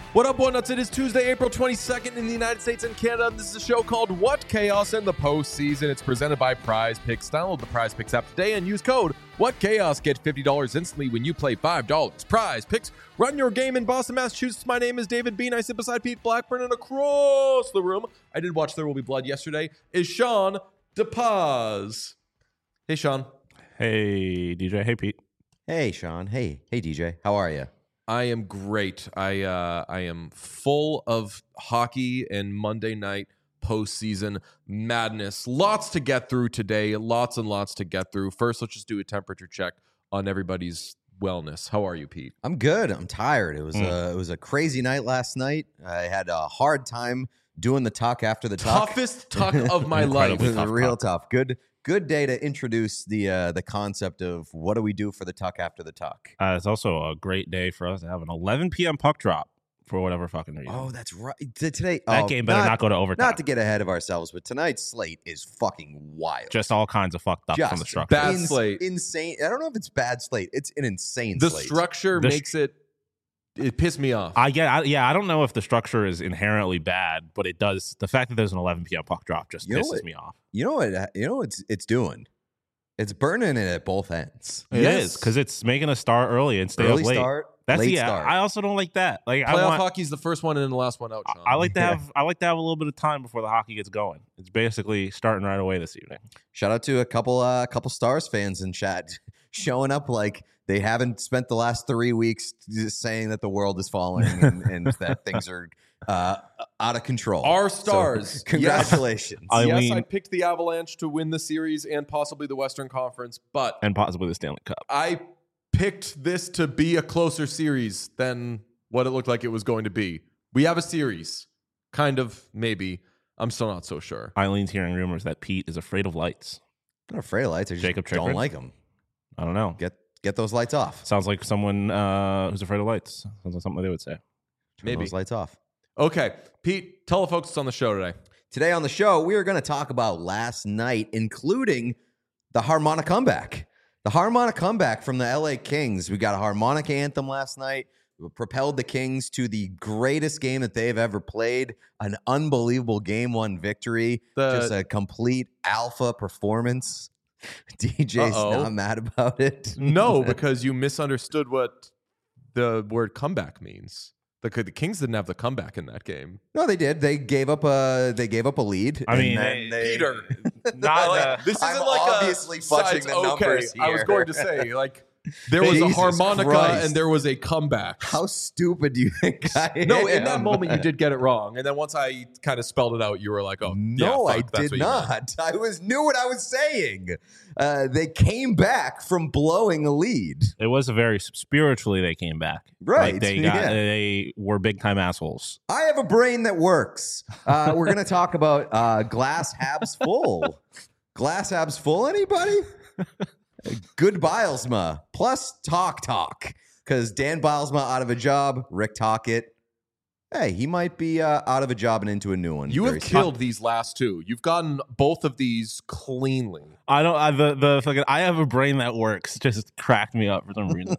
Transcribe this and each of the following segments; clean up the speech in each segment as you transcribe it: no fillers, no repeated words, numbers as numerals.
What up, One Nuts? It is Tuesday, April 22nd in the United States and Canada. And this is a show called What Chaos in the Postseason. It's presented by Prize Picks. Download the Prize Picks app today and use code What Chaos. Get $50 instantly when you play $5. Prize Picks. Run your game in Boston, Massachusetts. My name is David Bean. I sit beside Pete Blackburn, and across the room, I did watch There Will Be Blood yesterday, is Sean DePaz. Hey, Sean. Hey, DJ. Hey, Pete. Hey, Sean. Hey, DJ. How are you? I am great. I am full of hockey and Monday night postseason madness. Lots to get through today. Lots and lots to get through. First, let's just do a temperature check on everybody's wellness. How are you, Pete? I'm good. I'm tired. It was a crazy night last night. I had a hard time doing the talk after the talk. Toughest talk of my life. It was real tough. Good day to introduce the concept of what do we do for the talk after the talk. It's also a great day for us to have an 11 p.m. puck drop for whatever fucking reason. Oh, that's right. Today, that game better not go to overtime. Not to get ahead of ourselves, but tonight's slate is fucking wild. Just all kinds of fucked up from the structure. Bad slate. Insane. I don't know if it's bad slate. It's an insane the slate. Structure makes it pissed me off. I don't know if the structure is inherently bad, but it does. The fact that there's an 11 p.m. puck drop just pisses me off. You know what it's doing? It's burning it at both ends. It is, because it's making us start early and stay up late. Start, That's late start. I also don't like that. Like playoff hockey's the first one in and the last one out, Sean. I like to have a little bit of time before the hockey gets going. It's basically starting right away this evening. Shout out to a couple Stars fans in chat showing up like they haven't spent the last 3 weeks just saying that the world is falling and that things are out of control. Our Stars. So, congratulations. Yes, I picked the Avalanche to win the series and possibly the Western Conference, and possibly the Stanley Cup. I picked this to be a closer series than what it looked like it was going to be. We have a series. Kind of, maybe. I'm still not so sure. Eileen's hearing rumors that Pete is afraid of lights. I'm not afraid of lights. I just don't like them. I don't know. Get those lights off. Sounds like someone who's afraid of lights. Sounds like something they would say. Maybe those lights off. Okay. Pete, tell the folks what's on the show today. Today on the show, we are going to talk about last night, including the harmonic comeback. The harmonic comeback from the LA Kings. We got a harmonic anthem last night. We propelled the Kings to the greatest game that they've ever played. An unbelievable Game 1 victory. Just a complete alpha performance. DJ's not mad about it. No, because you misunderstood what the word comeback means. The Kings didn't have the comeback in that game. No, they did. They gave up a lead. I mean, Peter, this isn't I'm like obviously fudging the numbers here. I was going to say, like, there was a harmonica Christ. and there was a comeback. How stupid do you think I am? No, in that moment you did get it wrong, and then once I kind of spelled it out, you were like, "Oh, no, yeah, I did not. I knew what I was saying. They came back from blowing a lead. It was a very spiritually they came back. Right? Like they were big time assholes. I have a brain that works. We're gonna talk about glass halves full. Glass halves full. Anybody? Good Bilesma plus talk because Dan Bilesma out of a job. Rick Tocchet, hey, he might be out of a job and into a new one. You have killed these last two. You've gotten both of these cleanly. I don't. I have a brain that works. Just cracked me up for some reason.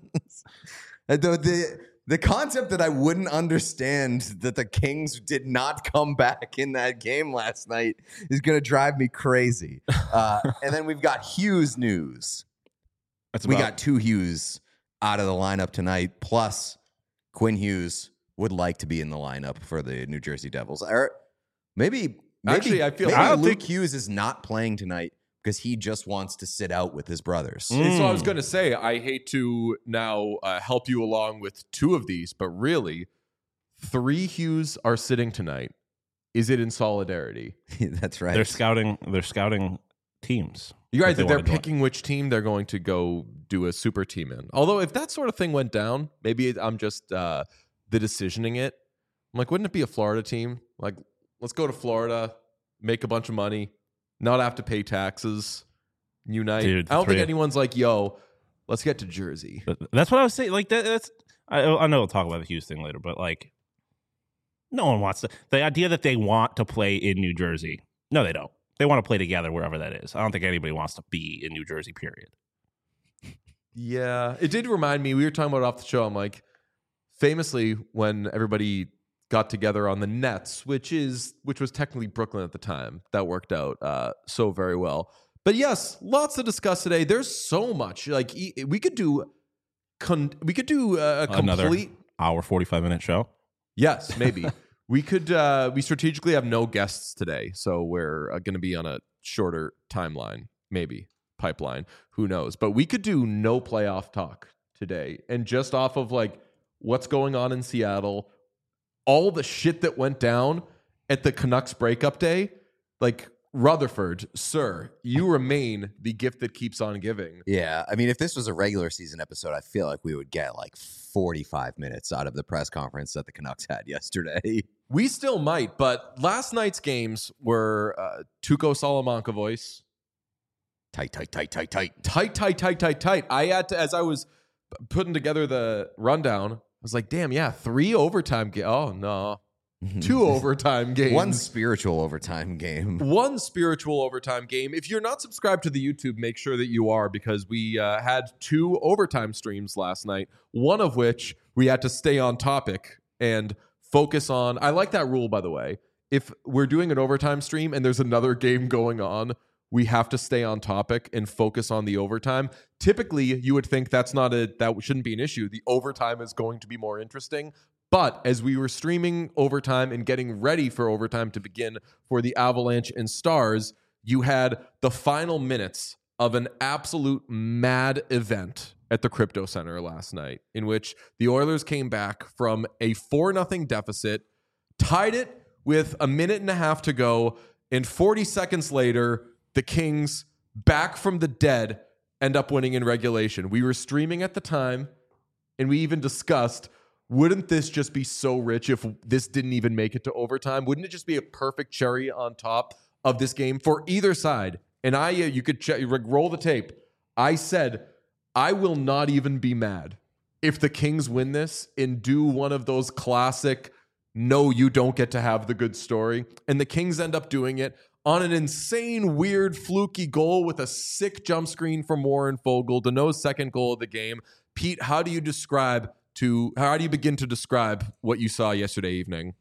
The concept that I wouldn't understand that the Kings did not come back in that game last night is going to drive me crazy. And then we've got Hughes news. We got two Hughes out of the lineup tonight, plus Quinn Hughes would like to be in the lineup for the New Jersey Devils. Or maybe Actually, I feel Luke Hughes is not playing tonight because he just wants to sit out with his brothers. So I was going to say, I hate to now help you along with two of these, but really, 3 Hughes are sitting tonight. Is it in solidarity? That's right. They're scouting teams. You're right that they're picking which team they're going to go do a super team in. Although if that sort of thing went down, maybe I'm just the decisioning it. I'm like, wouldn't it be a Florida team? Like, let's go to Florida, make a bunch of money, not have to pay taxes, unite. Dude, I don't think anyone's like, yo, let's get to Jersey. That's what I was saying. Like that's I know we'll talk about the Hughes thing later, but like no one wants to. The idea that they want to play in New Jersey, no, they don't. They want to play together wherever that is. I don't think anybody wants to be in New Jersey, period. Yeah. It did remind me, we were talking about it off the show. I'm like, famously, when everybody got together on the Nets, which was technically Brooklyn at the time. That worked out so very well. But yes, lots to discuss today. There's so much. Like we could do a Another complete hour 45-minute show. Yes, maybe. We could we strategically have no guests today, so we're going to be on a shorter timeline, maybe pipeline, who knows. But we could do no playoff talk today, and just off of like what's going on in Seattle, all the shit that went down at the Canucks breakup day, like Rutherford, sir, you remain the gift that keeps on giving. Yeah, I mean, if this was a regular season episode, I feel like we would get like 45 minutes out of the press conference that the Canucks had yesterday. We still might, but last night's games were Tuukka Salamanca voice. Tight. I had to, as I was putting together the rundown, I was like, damn, yeah, 3 overtime games. Oh, no. 2 overtime games. One spiritual overtime game. One spiritual overtime game. If you're not subscribed to the YouTube, make sure that you are, because we had 2 overtime streams last night, one of which we had to stay on topic and focus on. I like that rule, by the way. If we're doing an overtime stream and there's another game going on, we have to stay on topic and focus on the overtime. Typically, you would think that shouldn't be an issue. The overtime is going to be more interesting. But as we were streaming overtime and getting ready for overtime to begin for the Avalanche and Stars, you had the final minutes of an absolute mad event at the Crypto Center last night, in which the Oilers came back from a 4-0 deficit, tied it with a minute and a half to go, and 40 seconds later, the Kings, back from the dead, end up winning in regulation. We were streaming at the time, and we even discussed, wouldn't this just be so rich if this didn't even make it to overtime? Wouldn't it just be a perfect cherry on top of this game for either side? And you could roll the tape. I said, I will not even be mad if the Kings win this and do one of those classic, no, you don't get to have the good story. And the Kings end up doing it on an insane, weird, fluky goal with a sick jump screen from Warren Foegele, Danault's second goal of the game. Pete, how do you begin to describe what you saw yesterday evening?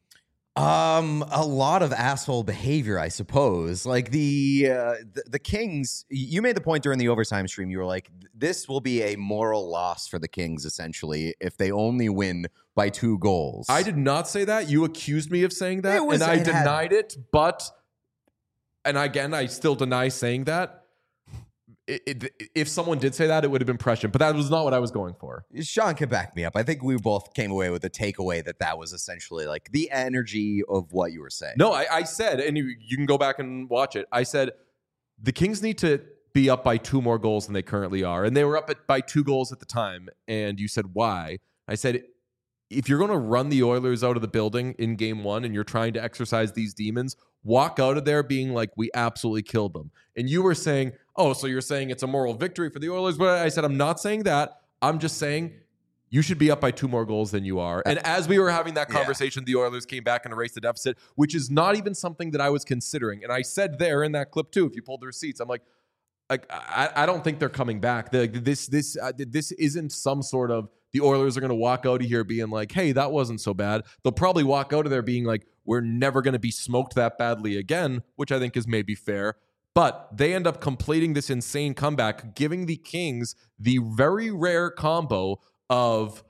A lot of asshole behavior, I suppose. Like the Kings, you made the point during the overtime stream. You were like, this will be a moral loss for the Kings, essentially, if they only win by 2 goals. I did not say that. You accused me of saying that, and I denied it. But, and again, I still deny saying that. If someone did say that, it would have been prescient, but that was not what I was going for. Sean can back me up. I think we both came away with a takeaway that was essentially like the energy of what you were saying. No, I said, and you can go back and watch it. I said the Kings need to be up by 2 more goals than they currently are, and they were up by 2 goals at the time. And you said why? I said, if you're going to run the Oilers out of the building in game 1 and you're trying to exercise these demons, walk out of there being like, we absolutely killed them. And you were saying, oh, so you're saying it's a moral victory for the Oilers? But I said, I'm not saying that. I'm just saying you should be up by 2 more goals than you are. And as we were having that conversation, the Oilers came back and erased the deficit, which is not even something that I was considering. And I said there in that clip too, if you pulled the receipts, I'm like I don't think they're coming back. This isn't some sort of, the Oilers are going to walk out of here being like, hey, that wasn't so bad. They'll probably walk out of there being like, we're never going to be smoked that badly again, which I think is maybe fair. But they end up completing this insane comeback, giving the Kings the very rare combo of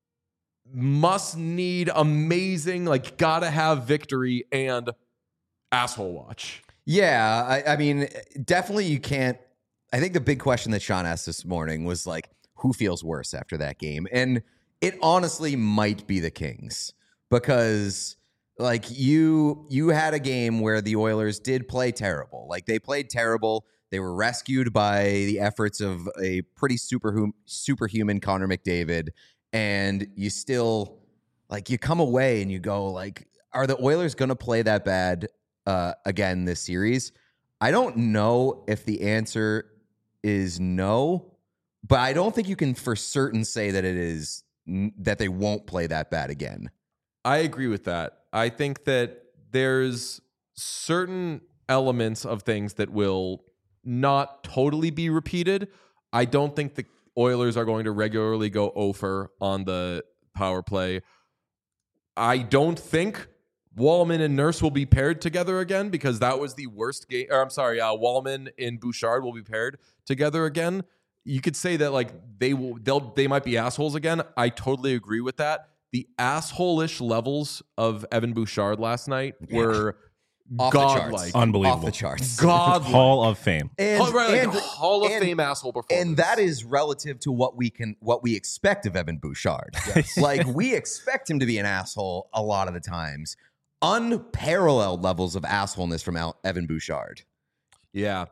must-need, amazing, like, gotta-have victory and asshole watch. Yeah, I mean, definitely you can't. I think the big question that Sean asked this morning was like, who feels worse after that game? And it honestly might be the Kings, because like you had a game where the Oilers did play terrible. Like, they played terrible. They were rescued by the efforts of a pretty superhuman Connor McDavid. And you still, like, you come away and you go like, are the Oilers going to play that bad again this series? I don't know if the answer is no, but I don't think you can for certain say that it is, that they won't play that bad again. I agree with that. I think that there's certain elements of things that will not totally be repeated. I don't think the Oilers are going to regularly go over on the power play. I don't think Wallman and Nurse will be paired together again because that was the worst game. Or I'm sorry, Wallman and Bouchard will be paired together again. You could say that like they might be assholes again. I totally agree with that. The asshole-ish levels of Evan Bouchard last night were godlike, unbelievable, off the charts, godlike. Hall of Fame, Hall of Fame asshole performance, and that is relative to what we expect of Evan Bouchard. Yes. Like we expect him to be an asshole a lot of the times. Unparalleled levels of assholeness from Evan Bouchard. Yeah,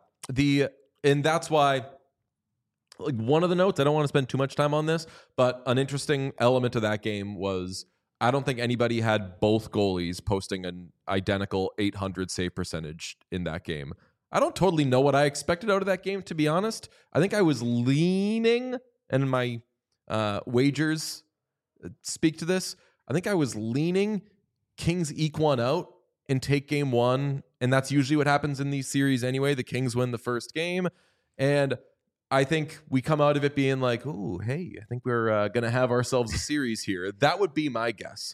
and that's why. Like one of the notes, I don't want to spend too much time on this, but an interesting element of that game was I don't think anybody had both goalies posting an identical 800 save percentage in that game. I don't totally know what I expected out of that game, to be honest. I think I was leaning, and my wagers speak to this. I think I was leaning Kings eke one out and take game one, and that's usually what happens in these series anyway. The Kings win the first game, and I think we come out of it being like, "Ooh, hey, I think we're going to have ourselves a series here." That would be my guess.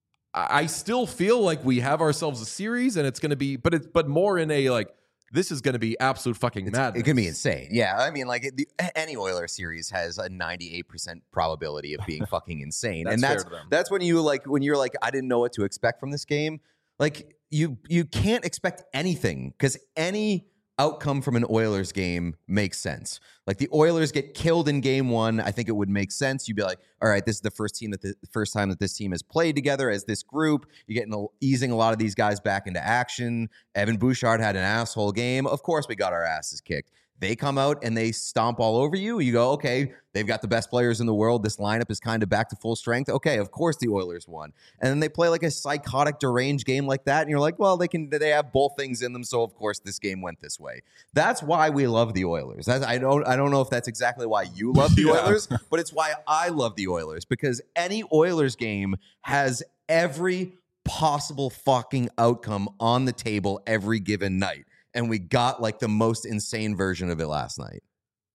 I still feel like we have ourselves a series, and it's going to be, but more in a like, this is going to be absolute fucking madness. It can be insane. Yeah, I mean, like any Oilers series has a 98% probability of being fucking insane, and that's when you're like, I didn't know what to expect from this game. Like you can't expect anything because any outcome from an Oilers game makes sense. Like the Oilers get killed in game one, I think it would make sense. You'd be like, all right, this is the first time that this team has played together as this group. You're getting easing a lot of these guys back into action. Evan Bouchard had an asshole game. Of course, we got our asses kicked. They come out and they stomp all over you. You go, okay, they've got the best players in the world. This lineup is kind of back to full strength. Okay, of course the Oilers won. And then they play like a psychotic, deranged game like that. And you're like, well, they have both things in them. So of course this game went this way. That's why we love the Oilers. I don't know if that's exactly why you love the Oilers, but it's why I love the Oilers, because any Oilers game has every possible fucking outcome on the table every given night. And we got like the most insane version of it last night.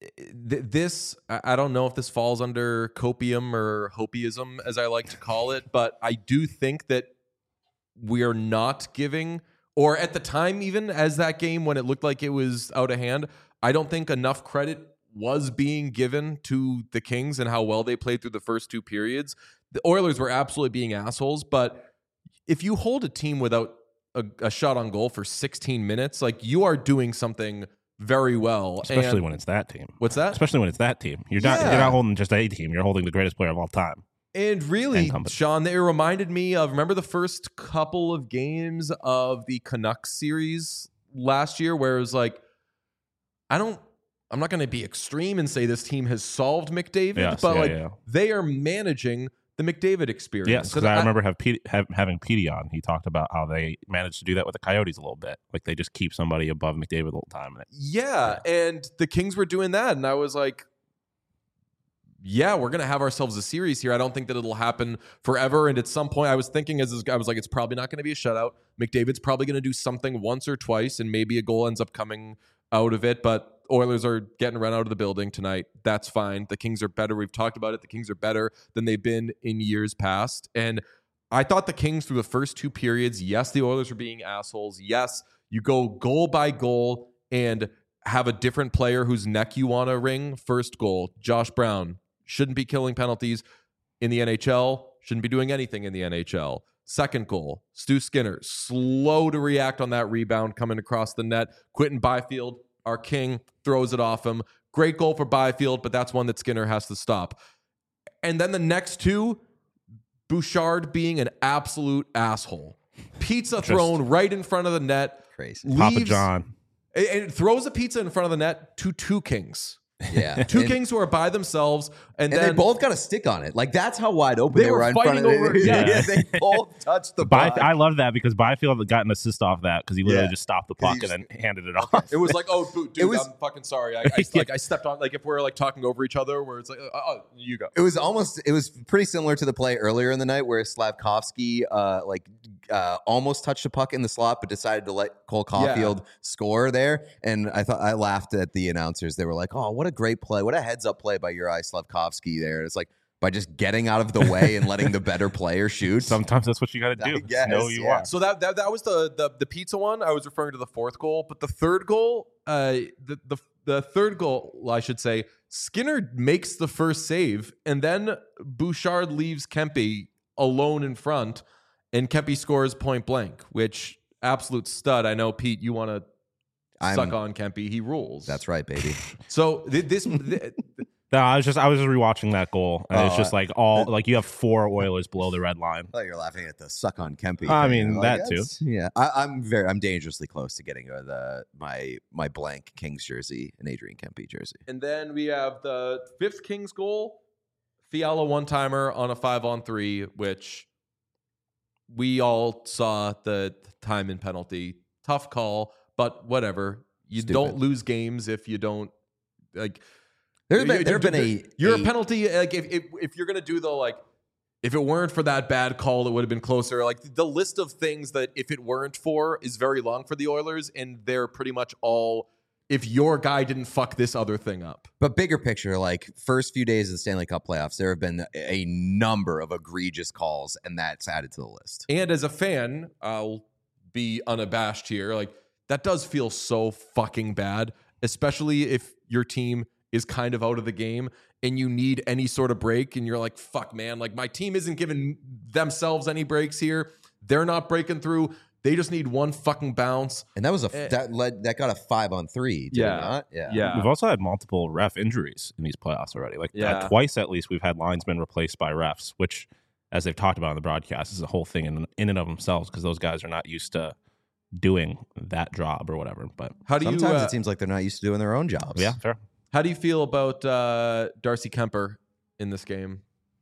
This, I don't know if this falls under copium or hopiism, as I like to call it, but I do think that we are not giving, or at the time, even as that game when it looked like it was out of hand, I don't think enough credit was being given to the Kings and how well they played through the first two periods. The Oilers were absolutely being assholes, but if you hold a team without a shot on goal for 16 minutes, like you are doing something very well. Especially when it's that team. What's that? Especially when it's that team. You're not holding just a team. You're holding the greatest player of all time. And really, Sean, they reminded me of, remember the first couple of games of the Canucks series last year where it was like, I'm not going to be extreme and say this team has solved McDavid, but they are managing the McDavid experience. Yes, because I remember having Petey on. He talked about how they managed to do that with the Coyotes a little bit. Like they just keep somebody above McDavid the whole time. Yeah, and the Kings were doing that, and I was like, yeah, we're going to have ourselves a series here. I don't think that it'll happen forever. And at some point, I was thinking, I was like, it's probably not going to be a shutout. McDavid's probably going to do something once or twice, and maybe a goal ends up coming out of it. But Oilers are getting run out of the building tonight. That's fine. The Kings are better. We've talked about it. The Kings are better than they've been in years past. And I thought the Kings through the first two periods, yes, the Oilers were being assholes. Yes, you go goal by goal and have a different player whose neck you want to wring. First goal, Josh Brown shouldn't be killing penalties in the NHL, shouldn't be doing anything in the NHL. Second goal, Stu Skinner, slow to react on that rebound coming across the net. Quentin Byfield, our king, throws it off him. Great goal for Byfield, but that's one that Skinner has to stop. And then the next two, Bouchard being an absolute asshole. Pizza thrown right in front of the net. Crazy. Papa John. And throws a pizza in front of the net to two Kings. Yeah. Kings who are by themselves. And then they both got a stick on it. Like, that's how wide open they were in front of it. Yeah. They both touched the puck. I love that because Byfield got an assist off that because he literally just stopped the puck and then handed it off. It was like, oh, dude, I'm fucking sorry. I stepped on, like, if we're, like, talking over each other where it's like, oh, you go. It was pretty similar to the play earlier in the night where Slavkovsky, almost touched the puck in the slot, but decided to let Cole Caulfield score there. And I laughed at the announcers. They were like, oh, what a great play. What a heads up play by Juraj Slavkovsky there. It's like, by just getting out of the way and letting the better player shoot. Sometimes that's what you got to do. guess, Know you yeah. want. So that was the pizza one. I was referring to the fourth goal, but the third goal, the third goal, I should say, Skinner makes the first save, and then Bouchard leaves Kempe alone in front, and Kempe scores point blank, which absolute stud. I know, Pete, you want to suck on Kempe. He rules. That's right, baby. So No, I was just rewatching that goal, and it's just like you have 4 Oilers below the red line. I thought you were laughing at the suck on Kempe. I thing. mean, that too. Yeah, I'm dangerously close to getting my blank Kings jersey and Adrian Kempe jersey. And then we have the fifth Kings goal, Fiala one-timer on a 5-on-3, which we all saw the time and penalty. Tough call, but whatever. You don't lose games if you don't like. You're a penalty. Like if you're gonna do if it weren't for that bad call, it would have been closer. Like the list of things that if it weren't for is very long for the Oilers, and they're pretty much all. If your guy didn't fuck this other thing up. But bigger picture, like first few days of the Stanley Cup playoffs, there have been a number of egregious calls, and that's added to the list. And as a fan, I'll be unabashed here. Like that does feel so fucking bad, especially if your team is kind of out of the game and you need any sort of break, and you're like, fuck, man, like my team isn't giving themselves any breaks here. They're not breaking through. They just need one fucking bounce. And that was that got a 5-on-3. Did it not? We've also had multiple ref injuries in these playoffs already. Twice at least we've had linesmen replaced by refs, which, as they've talked about on the broadcast, is a whole thing in and of themselves, because those guys are not used to doing that job or whatever. But sometimes it seems like they're not used to doing their own jobs. Yeah, fair. How do you feel about Darcy Kemper in this game?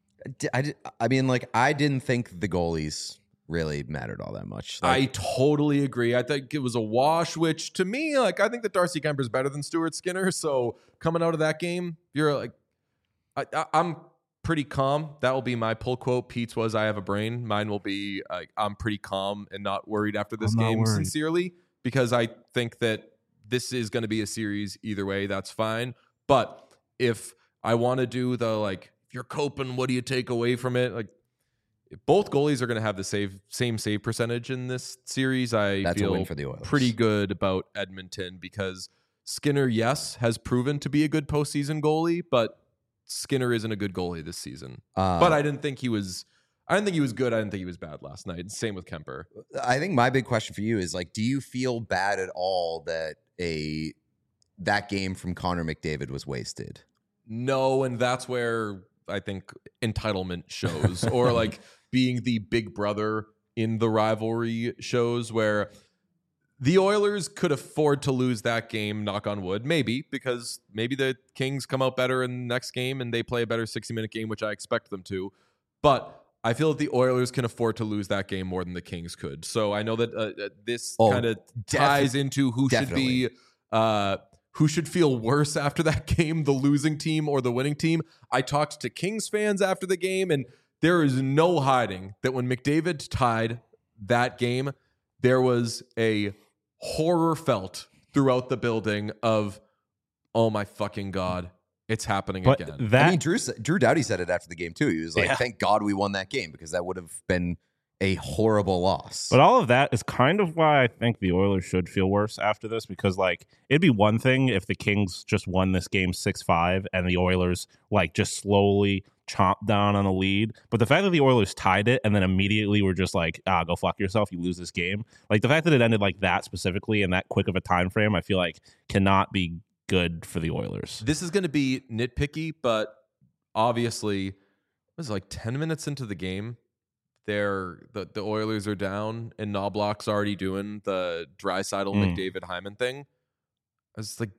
I mean, like, I didn't think the goalies really mattered all that much. I totally agree. I think it was a wash, which to me, like, I think that Darcy Kemper is better than Stuart Skinner. So coming out of that game, you're like, I'm pretty calm. That will be my pull quote. Pete's was, I have a brain. Mine will be, I'm pretty calm and not worried after this game, sincerely, because I think that this is going to be a series either way. That's fine. But if I want to do the, like, if you're coping, what do you take away from it? Like, both goalies are going to have the same save percentage in this series. That's feel a win for the Oilers. Pretty good about Edmonton, because Skinner, yes, has proven to be a good postseason goalie, but Skinner isn't a good goalie this season. But I didn't think he was good. I didn't think he was bad last night. Same with Kemper. I think my big question for you is, like, do you feel bad at all that that game from Connor McDavid was wasted? No, and that's where I think entitlement shows, or like being the big brother in the rivalry shows, where the Oilers could afford to lose that game, knock on wood, maybe, because maybe the Kings come out better in the next game and they play a better 60-minute game, which I expect them to. But I feel that the Oilers can afford to lose that game more than the Kings could. So I know that this kind of ties into who should feel worse after that game, the losing team or the winning team. I talked to Kings fans after the game, and there is no hiding that when McDavid tied that game, there was a horror felt throughout the building of, oh my fucking God, it's happening again. I mean, Drew Doughty said it after the game too. He was like, thank God we won that game, because that would have been a horrible loss. But all of that is kind of why I think the Oilers should feel worse after this, because, like, it'd be one thing if the Kings just won this game 6-5 and the Oilers, like, just slowly chomped down on the lead. But the fact that the Oilers tied it and then immediately were just like, go fuck yourself, you lose this game. Like, the fact that it ended like that specifically in that quick of a time frame, I feel like cannot be good for the Oilers. This is going to be nitpicky, but obviously, it was like 10 minutes into the game. The Oilers are down, and Knobloch's already doing the Draisaitl McDavid Hyman thing. I was like,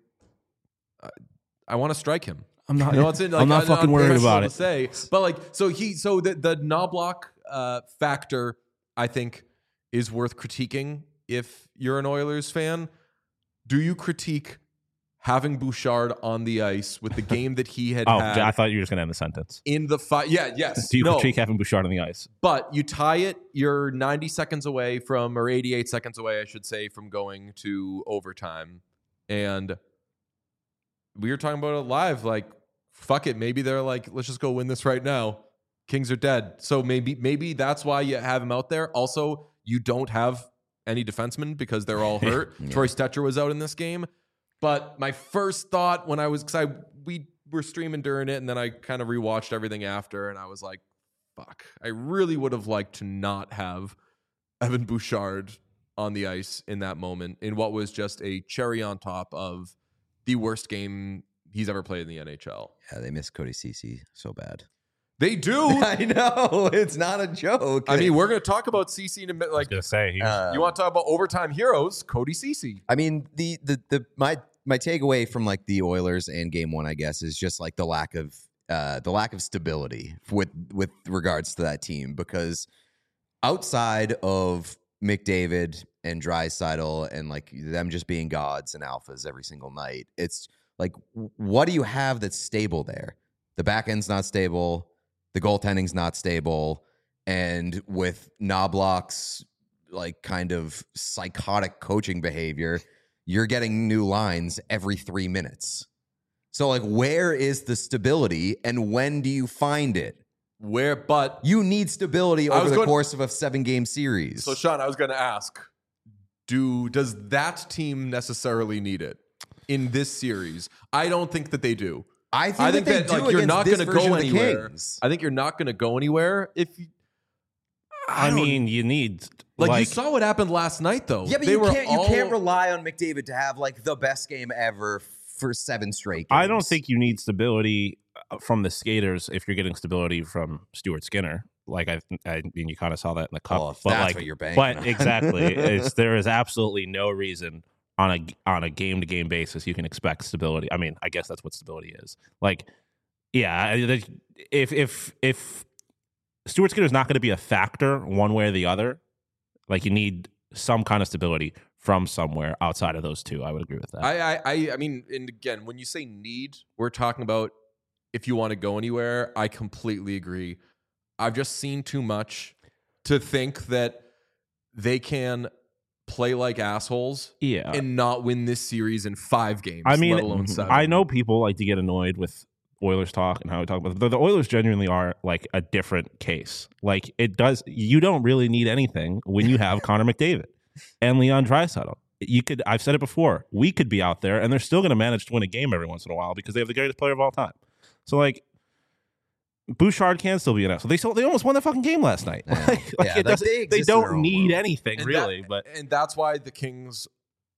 I want to strike him. I'm not fucking worried about it. But like, so the Knobloch factor, I think, is worth critiquing if you're an Oilers fan. Do you critique having Bouchard on the ice with the game that he had had? I thought you were just going to end the sentence. In the fight. Yeah, yes. Do you critique having Bouchard on the ice? But you tie it, you're 90 seconds away from, or 88 seconds away, I should say, from going to overtime. And we were talking about it live, like, fuck it. Maybe they're like, let's just go win this right now. Kings are dead. So maybe that's why you have him out there. Also, you don't have any defensemen because they're all hurt. Yeah. Troy Stetcher was out in this game. But my first thought when we were streaming during it, and then I kind of rewatched everything after, and I was like, fuck. I really would have liked to not have Evan Bouchard on the ice in that moment in what was just a cherry on top of the worst game he's ever played in the NHL. Yeah, they miss Cody Ceci so bad. They do. I know. It's not a joke. I mean, we're going to talk about Ceci in a minute. I was Like, gonna say you want to talk about overtime heroes? Cody Ceci. I mean, my takeaway from like the Oilers and Game 1, I guess, is just like the lack of stability with regards to that team, because outside of McDavid and Draisaitl and like them just being gods and alphas every single night, it's like, what do you have that's stable there? The back end's not stable. The goaltending's not stable. And with Knobloch's like kind of psychotic coaching behavior, you're getting new lines every 3 minutes. So like, where is the stability and when do you find it? But You need stability over the course of a 7-game series. so Sean, I was going to ask, does that team necessarily need it in this series? I don't think that they do. I think that they do like you're not going to go the anywhere. Kings. I think you're not going to go anywhere if you, I mean, you need like you saw what happened last night though. Yeah, but you can't rely on McDavid to have like the best game ever for 7 straight games. I don't think you need stability from the skaters if you're getting stability from Stuart Skinner. Like I mean, you kind of saw that in the cup. Well, if but that's like, what you're banking but on. exactly, there is absolutely no reason on a game to game basis you can expect stability. I mean, I guess that's what stability is. Like, yeah, if Stuart Skinner is not going to be a factor one way or the other, like you need some kind of stability from somewhere outside of those two. I would agree with that. I mean, and again, when you say need, we're talking about if you want to go anywhere. I completely agree. I've just seen too much to think that they can play like assholes and not win this series in 5 games, I mean, let alone 7. I know people like to get annoyed with Oilers talk and how we talk about it. The Oilers genuinely are like a different case. Like you don't really need anything when you have Connor McDavid and Leon Draisaitl. I've said it before, we could be out there and they're still going to manage to win a game every once in a while because they have the greatest player of all time. So like, Bouchard can still be an asshole. They almost won the fucking game last night. They don't need anything really. And that's why the Kings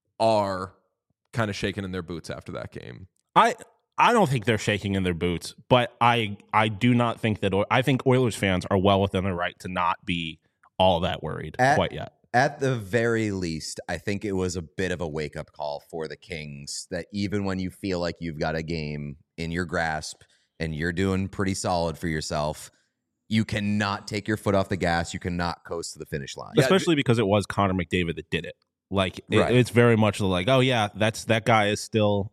are kind of shaking in their boots after that game. I don't think they're shaking in their boots, but I do not think that. I think Oilers fans are well within their right to not be all that worried quite yet. At the very least, I think it was a bit of a wake-up call for the Kings that even when you feel like you've got a game in your grasp and you're doing pretty solid for yourself, you cannot take your foot off the gas. You cannot coast to the finish line. Especially because it was Connor McDavid that did it. Like, it's very much like, oh, yeah, that guy is still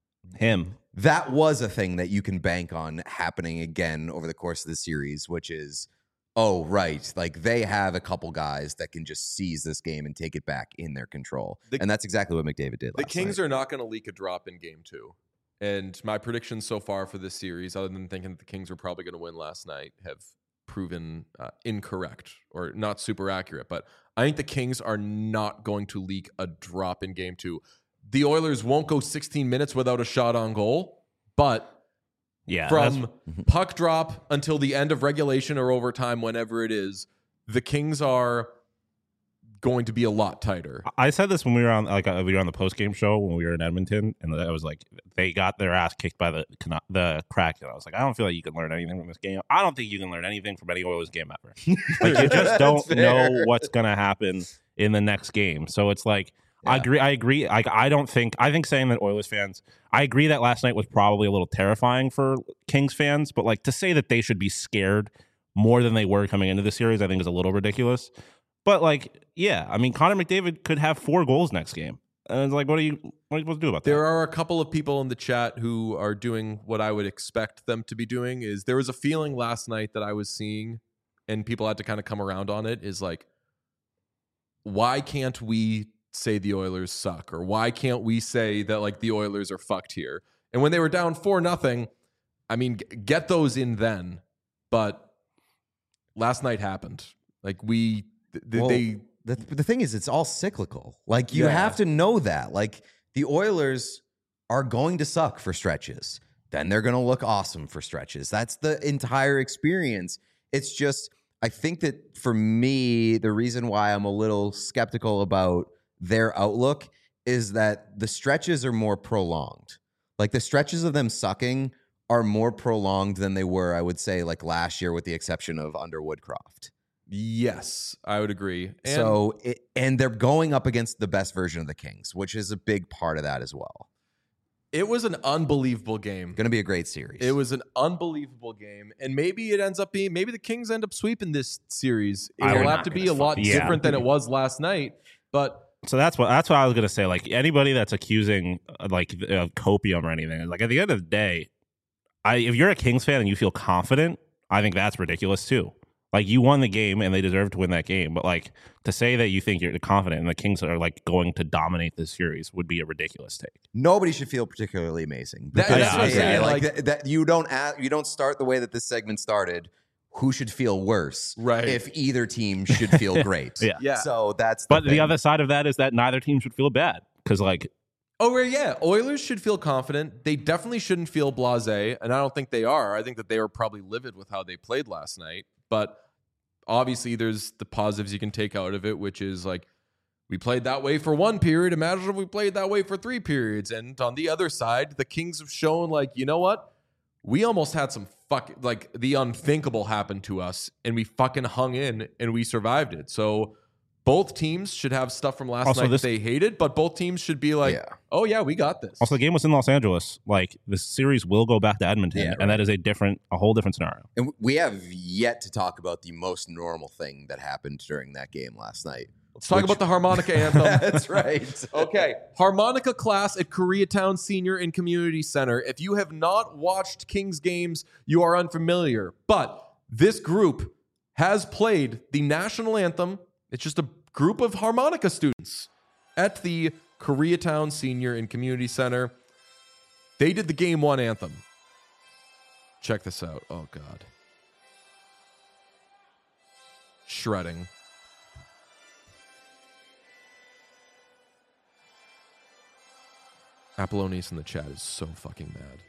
him. That was a thing that you can bank on happening again over the course of the series, which is, oh, right, like they have a couple guys that can just seize this game and take it back in their control. And that's exactly what McDavid did. The Kings are not going to leak a drop in game 2. And my predictions so far for this series, other than thinking that the Kings were probably going to win last night, have proven incorrect or not super accurate. But I think the Kings are not going to leak a drop in game 2. The Oilers won't go 16 minutes without a shot on goal, but from puck drop until the end of regulation or overtime, whenever it is, the Kings are going to be a lot tighter. I said this when we were on the post game show when we were in Edmonton, and I was like, they got their ass kicked by the Kraken. I was like, I don't feel like you can learn anything from this game. I don't think you can learn anything from any Oilers game ever. Like you just don't know what's going to happen in the next game. So it's like, I agree. I think saying that Oilers fans, I agree that last night was probably a little terrifying for Kings fans, but like to say that they should be scared more than they were coming into the series, I think is a little ridiculous. But like, yeah, I mean, Connor McDavid could have 4 goals next game. And it's like, what are you supposed to do about that? There are a couple of people in the chat who are doing what I would expect them to be doing. Is there was a feeling last night that I was seeing, and people had to kind of come around on it, is like, why can't we say the Oilers suck? Or why can't we say that like the Oilers are fucked here? And when they were down 4-0, I mean, get those in then. But last night happened. Like the thing is, it's all cyclical. Like you Yeah. have to know that. Like the Oilers are going to suck for stretches. Then they're going to look awesome for stretches. That's the entire experience. It's just, I think that for me, the reason why I'm a little skeptical about their outlook is that the stretches are more prolonged. Like the stretches of them sucking are more prolonged than they were, I would say, like last year, with the exception of under Woodcroft. Yes, I would agree. And they're going up against the best version of the Kings, which is a big part of that as well. It was an unbelievable game. Going to be a great series. It was an unbelievable game. And maybe it ends up being, maybe the Kings end up sweeping this series. It will have to be a lot different than it was last night. But so that's what I was gonna say. Like anybody that's accusing like copium or anything, like at the end of the day, if you're a Kings fan and you feel confident, I think that's ridiculous too. Like you won the game and they deserve to win that game, but like to say that you think you're confident and the Kings are like going to dominate this series would be a ridiculous take. Nobody should feel particularly amazing. That's what I'm saying. Like that you don't start the way that this segment started. Who should feel worse? Right. If either team should feel great. Yeah. So that's. But thing. the other side of that is that neither team should feel bad because like. Oh, yeah. Oilers should feel confident. They definitely shouldn't feel blasé, and I don't think they are. I think that they were probably livid with how they played last night. But obviously, there's the positives you can take out of it, which is like, we played that way for one period. Imagine if we played that way for 3 periods. And on the other side, the Kings have shown, like, you know what? We almost had some like the unthinkable happen to us, and we fucking hung in and we survived it. So both teams should have stuff from last night that they hated, but both teams should be like, oh, yeah, we got this. Also, the game was in Los Angeles. Like, the series will go back to Edmonton, and that is a whole different scenario. And we have yet to talk about the most normal thing that happened during that game last night. Let's talk about the harmonica anthem. That's right. Okay. Harmonica class at Koreatown Senior and Community Center. If you have not watched Kings games, you are unfamiliar. But this group has played the national anthem. It's just a group of harmonica students at the Koreatown Senior and Community Center. They did the Game 1 anthem. Check this out. Oh, God. Shredding. Apollonius in the chat is so fucking mad.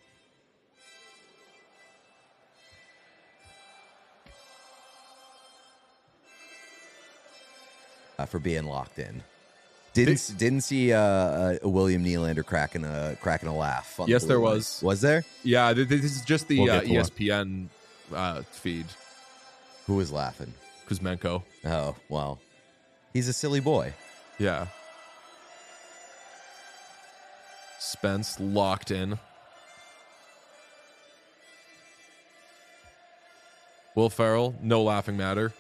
For being locked in. Didn't see William Nylander cracking a laugh. On Yes, the there blue line. was. Was there? Yeah, this is just the We'll get to ESPN feed. Who was laughing? Kuzmenko. Oh, well. He's a silly boy. Yeah. Spence locked in. Will Ferrell, no laughing matter.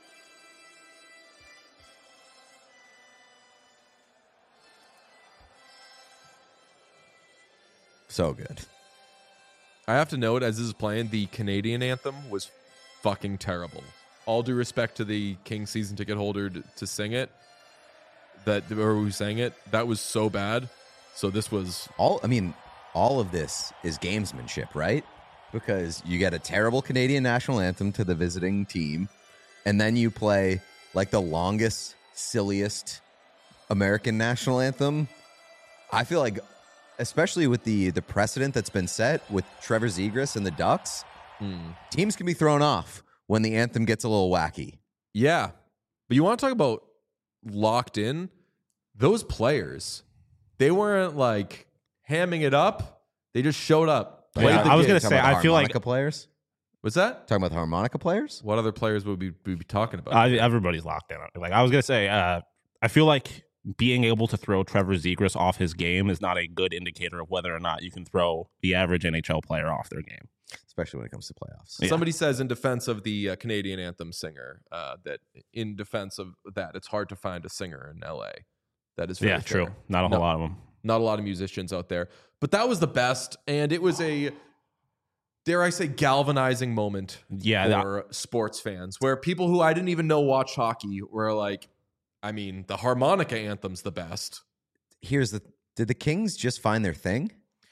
So good. I have to note, as this is playing, the Canadian anthem was fucking terrible. All due respect to the King season ticket holder to sing it, or who sang it, that was so bad. So this was all of this is gamesmanship, right? Because you get a terrible Canadian national anthem to the visiting team, and then you play like the longest, silliest American national anthem. I feel like, especially with the precedent that's been set with Trevor Zegras and the Ducks, teams can be thrown off when the anthem gets a little wacky. Yeah. But you want to talk about locked in? Those players, they weren't like hamming it up. They just showed up. Yeah, I was going to say, I feel like players. What's that? Talking about the harmonica players? What other players would we be talking about? Everybody's locked in. Like I was going to say, I feel like being able to throw Trevor Zegras off his game is not a good indicator of whether or not you can throw the average NHL player off their game, especially when it comes to playoffs. Yeah. Somebody says in defense of the Canadian anthem singer that in defense of that, it's hard to find a singer in LA. That is very true. fair. Not a whole lot of them. Not a lot of musicians out there. But that was the best, and it was a, dare I say, galvanizing moment for sports fans, where people who I didn't even know watch hockey were like, I mean, the harmonica anthem's the best. Did the Kings just find their thing?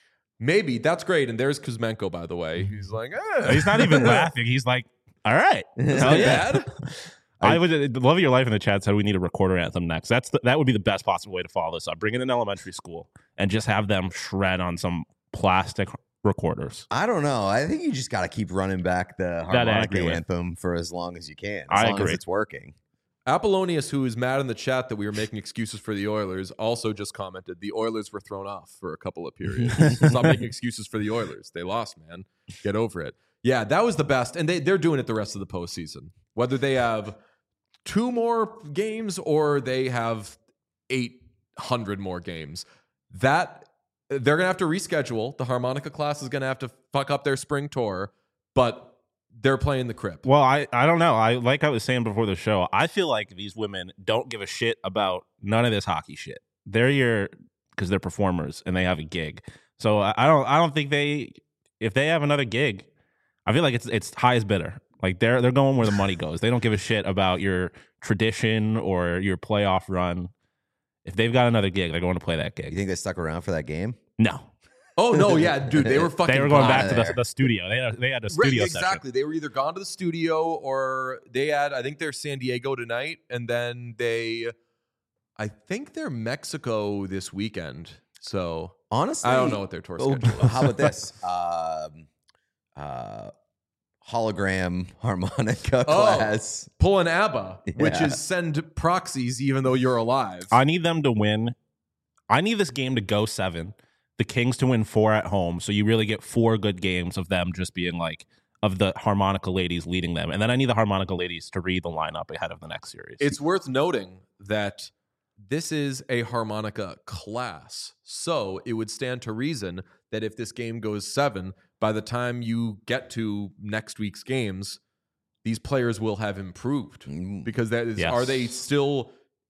Maybe. That's great. And there's Kuzmenko, by the way. He's like, He's not even laughing. He's like, all right. Hell yeah. bad. I would love your life in the chat said we need a recorder anthem next. That would be the best possible way to follow this up. Bring in an elementary school and just have them shred on some plastic recorders. I don't know. I think you just got to keep running back the harmonica anthem for as long as you can. As long as it's working. Apollonius, who is mad in the chat that we were making excuses for the Oilers, also just commented the Oilers were thrown off for a couple of periods. Stop making excuses for the Oilers. They lost, man. Get over it. Yeah, that was the best. And they're doing it the rest of the postseason. Whether they have 2 more games or they have 800 more games, that they're going to have to reschedule. The harmonica class is going to have to fuck up their spring tour, but they're playing the Crip. Well, I don't know. Like I was saying before the show, I feel like these women don't give a shit about none of this hockey shit. They're because they're performers and they have a gig. So I don't think if they have another gig, I feel like it's highest bidder. Like they're going where the money goes. They don't give a shit about your tradition or your playoff run. If they've got another gig, they're going to play that gig. You think they stuck around for that game? No. Oh no, yeah, dude, they were fucking. They were going back to the studio. They had a studio session. Exactly. They were either gone to the studio or they had. I think they're San Diego tonight, and then I think they're Mexico this weekend. So honestly, I don't know what their tour schedule is. How about this? Hologram harmonica class. Pull an ABBA, which is send proxies even though you're alive. I need them to win. I need this game to go 7. The Kings to win 4 at home, so you really get 4 good games of them just being like, of the harmonica ladies leading them. And then I need the harmonica ladies to read the lineup ahead of the next series. It's worth noting that this is a harmonica class, so it would stand to reason that if this game goes 7, by the time you get to next week's games, these players will have improved. Because that is, are they still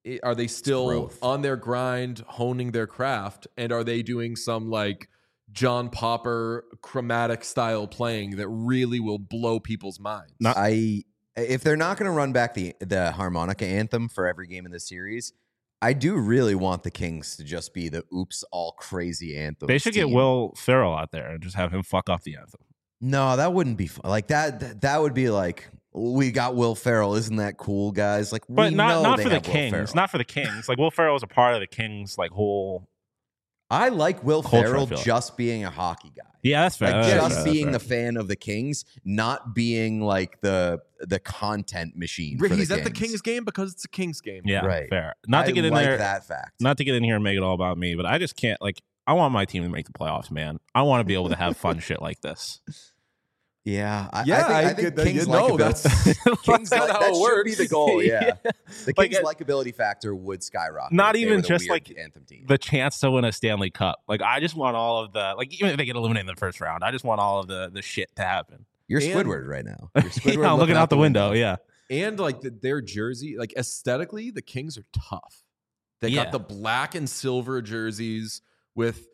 on their grind, honing their craft, and are they doing some like John Popper chromatic style playing that really will blow people's minds? If they're not going to run back the harmonica anthem for every game in the series, I do really want the Kings to just be the oops all crazy anthem. They should get Will Ferrell out there and just have him fuck off the anthem. No, that wouldn't be fun. Like that would be like, we got Will Ferrell. Isn't that cool, guys? Like, but not for the Kings. Not for the Kings. Like Will Ferrell is a part of the Kings. Like whole. I like Will Ferrell just being a hockey guy. Yeah, that's fair. Like just being the fan of the Kings, not being like the content machine. He's at the Kings game because it's a Kings game. Yeah, right. Fair. Not to get in there. That fact. Not to get in here and make it all about me, but I just can't. Like, I want my team to make the playoffs, man. I want to be able to have fun shit like this. Yeah, I think Kings that's Kings not how it works. Should be the goal. Yeah, the Kings' likability factor would skyrocket. Not even just like anthem team. The chance to win a Stanley Cup. Like I just want all of the even if they get eliminated in the first round, I just want all of the shit to happen. You're Squidward right now. You're Squidward I'm looking out the window. Yeah, and like their jersey, like aesthetically, the Kings are tough. They got the black and silver jerseys with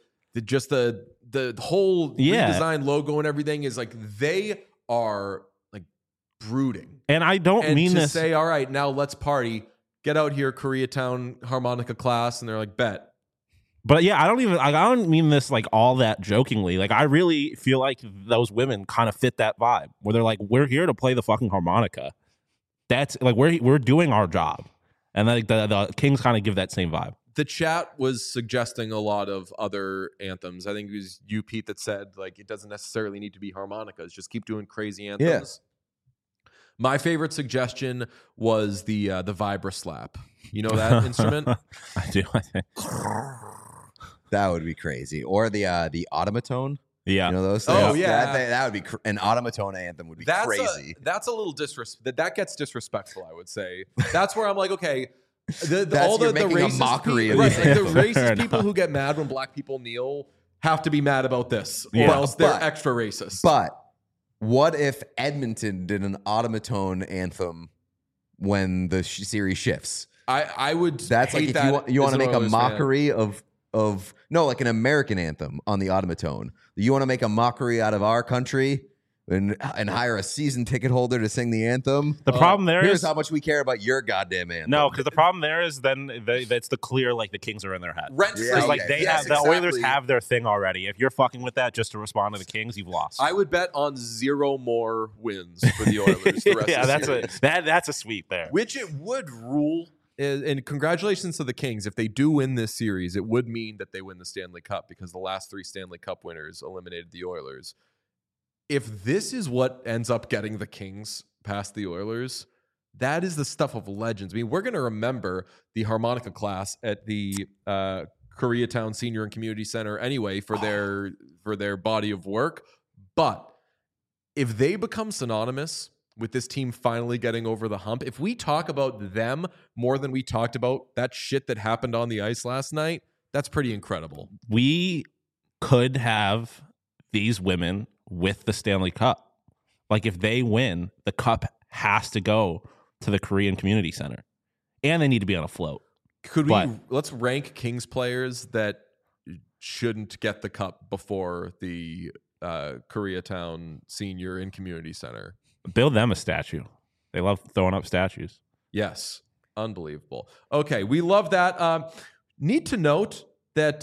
the whole redesigned logo and everything is like they are like brooding. And I don't mean to this say, all right, now let's party. Get out here, Koreatown harmonica class, and they're like, bet. But yeah, I don't mean this like all that jokingly. Like I really feel like those women kind of fit that vibe where they're like, we're here to play the fucking harmonica. That's like we're doing our job, and like the Kings kind of give that same vibe. The chat was suggesting a lot of other anthems. I think it was you, Pete, that said like it doesn't necessarily need to be harmonicas. Just keep doing crazy anthems. Yeah. My favorite suggestion was the vibra slap. You know that instrument? I do. I think that would be crazy. Or the automaton. Yeah, you know those things? Oh yeah, that would be an automaton anthem would be crazy. That's a little that gets disrespectful. I would say that's where I'm like, okay. You're making a mockery of the racist people who get mad when black people kneel have to be mad about this, or else they're extra racist. But what if Edmonton did an automaton anthem when the series shifts? I would. That's like if you want to make a mockery of like an American anthem on the automaton. You want to make a mockery out of our country. and hire a season ticket holder to sing the anthem. The problem there Here's is how much we care about your goddamn anthem. no, because the problem there is then that's the clear like the Kings are in their head. Rent Yeah, free. Like they Yes, have the Oilers exactly. have their thing already. If you're fucking with that just to respond to the Kings, you've lost. I would bet on 0 more wins for the Oilers the rest yeah, of the that's series. that's a sweep there. Which it would rule. And congratulations to the Kings. If they do win this series, it would mean that they win the Stanley Cup because the last 3 Stanley Cup winners eliminated the Oilers. If this is what ends up getting the Kings past the Oilers, that is the stuff of legends. I mean, we're going to remember the harmonica class at the Koreatown Senior and Community Center anyway for their body of work. But if they become synonymous with this team finally getting over the hump, if we talk about them more than we talked about that shit that happened on the ice last night, that's pretty incredible. We could have these women with the Stanley Cup. Like if they win, the cup has to go to the Korean Community Center, and they need to be on a float. Let's rank Kings players that shouldn't get the cup before the Koreatown Senior and Community Center. Build them a statue. They love throwing up statues. Yes. Unbelievable. Okay. We love that. Need to note that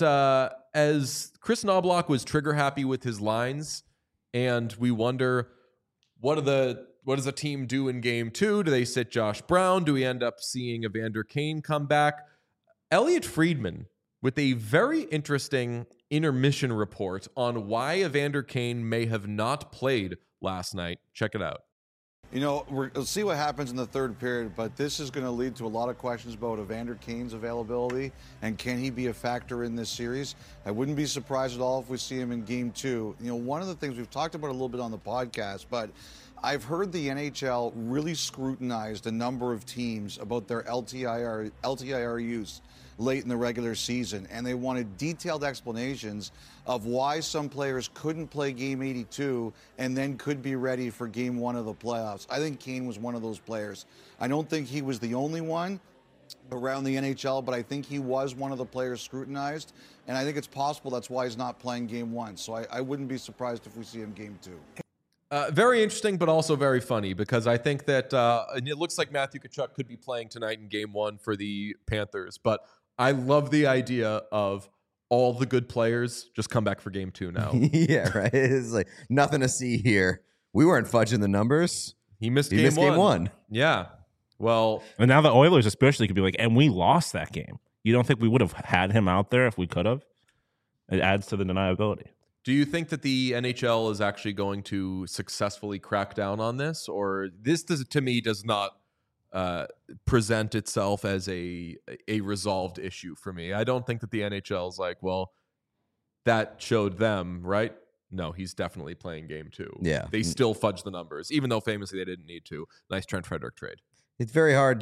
as Chris Knobloch was trigger happy with his lines, and we wonder what does the team do in game 2? Do they sit Josh Brown? Do we end up seeing Evander Kane come back? Elliot Friedman with a very interesting intermission report on why Evander Kane may have not played last night. Check it out. You know, we'll see what happens in the third period, but this is going to lead to a lot of questions about Evander Kane's availability and can he be a factor in this series. I wouldn't be surprised at all if we see him in game 2. You know, one of the things we've talked about a little bit on the podcast, but I've heard the NHL really scrutinized a number of teams about their LTIR use late in the regular season, and they wanted detailed explanations of why some players couldn't play game 82 and then could be ready for game 1 of the playoffs. I think Kane was one of those players. I don't think he was the only one around the NHL, but I think he was one of the players scrutinized, and I think it's possible that's why he's not playing game 1. So I wouldn't be surprised if we see him game 2. Very interesting, but also very funny because I think that and it looks like Matthew Tkachuk could be playing tonight in game 1 for the Panthers, but I love the idea of all the good players just come back for game 2 now. Yeah, right. It's like nothing to see here. We weren't fudging the numbers. He missed He missed game 1. Yeah. Well, And now the Oilers especially could be like, and we lost that game. You don't think we would have had him out there if we could have? It adds to the deniability. do you think that the NHL is actually going to successfully crack down on this, or this to me does not present itself as a resolved issue for me? I don't think that the NHL is like, well, that showed them, right? No, he's definitely playing game 2. Yeah. They still fudge the numbers, even though famously they didn't need to. Nice Trent Frederick trade. It's very hard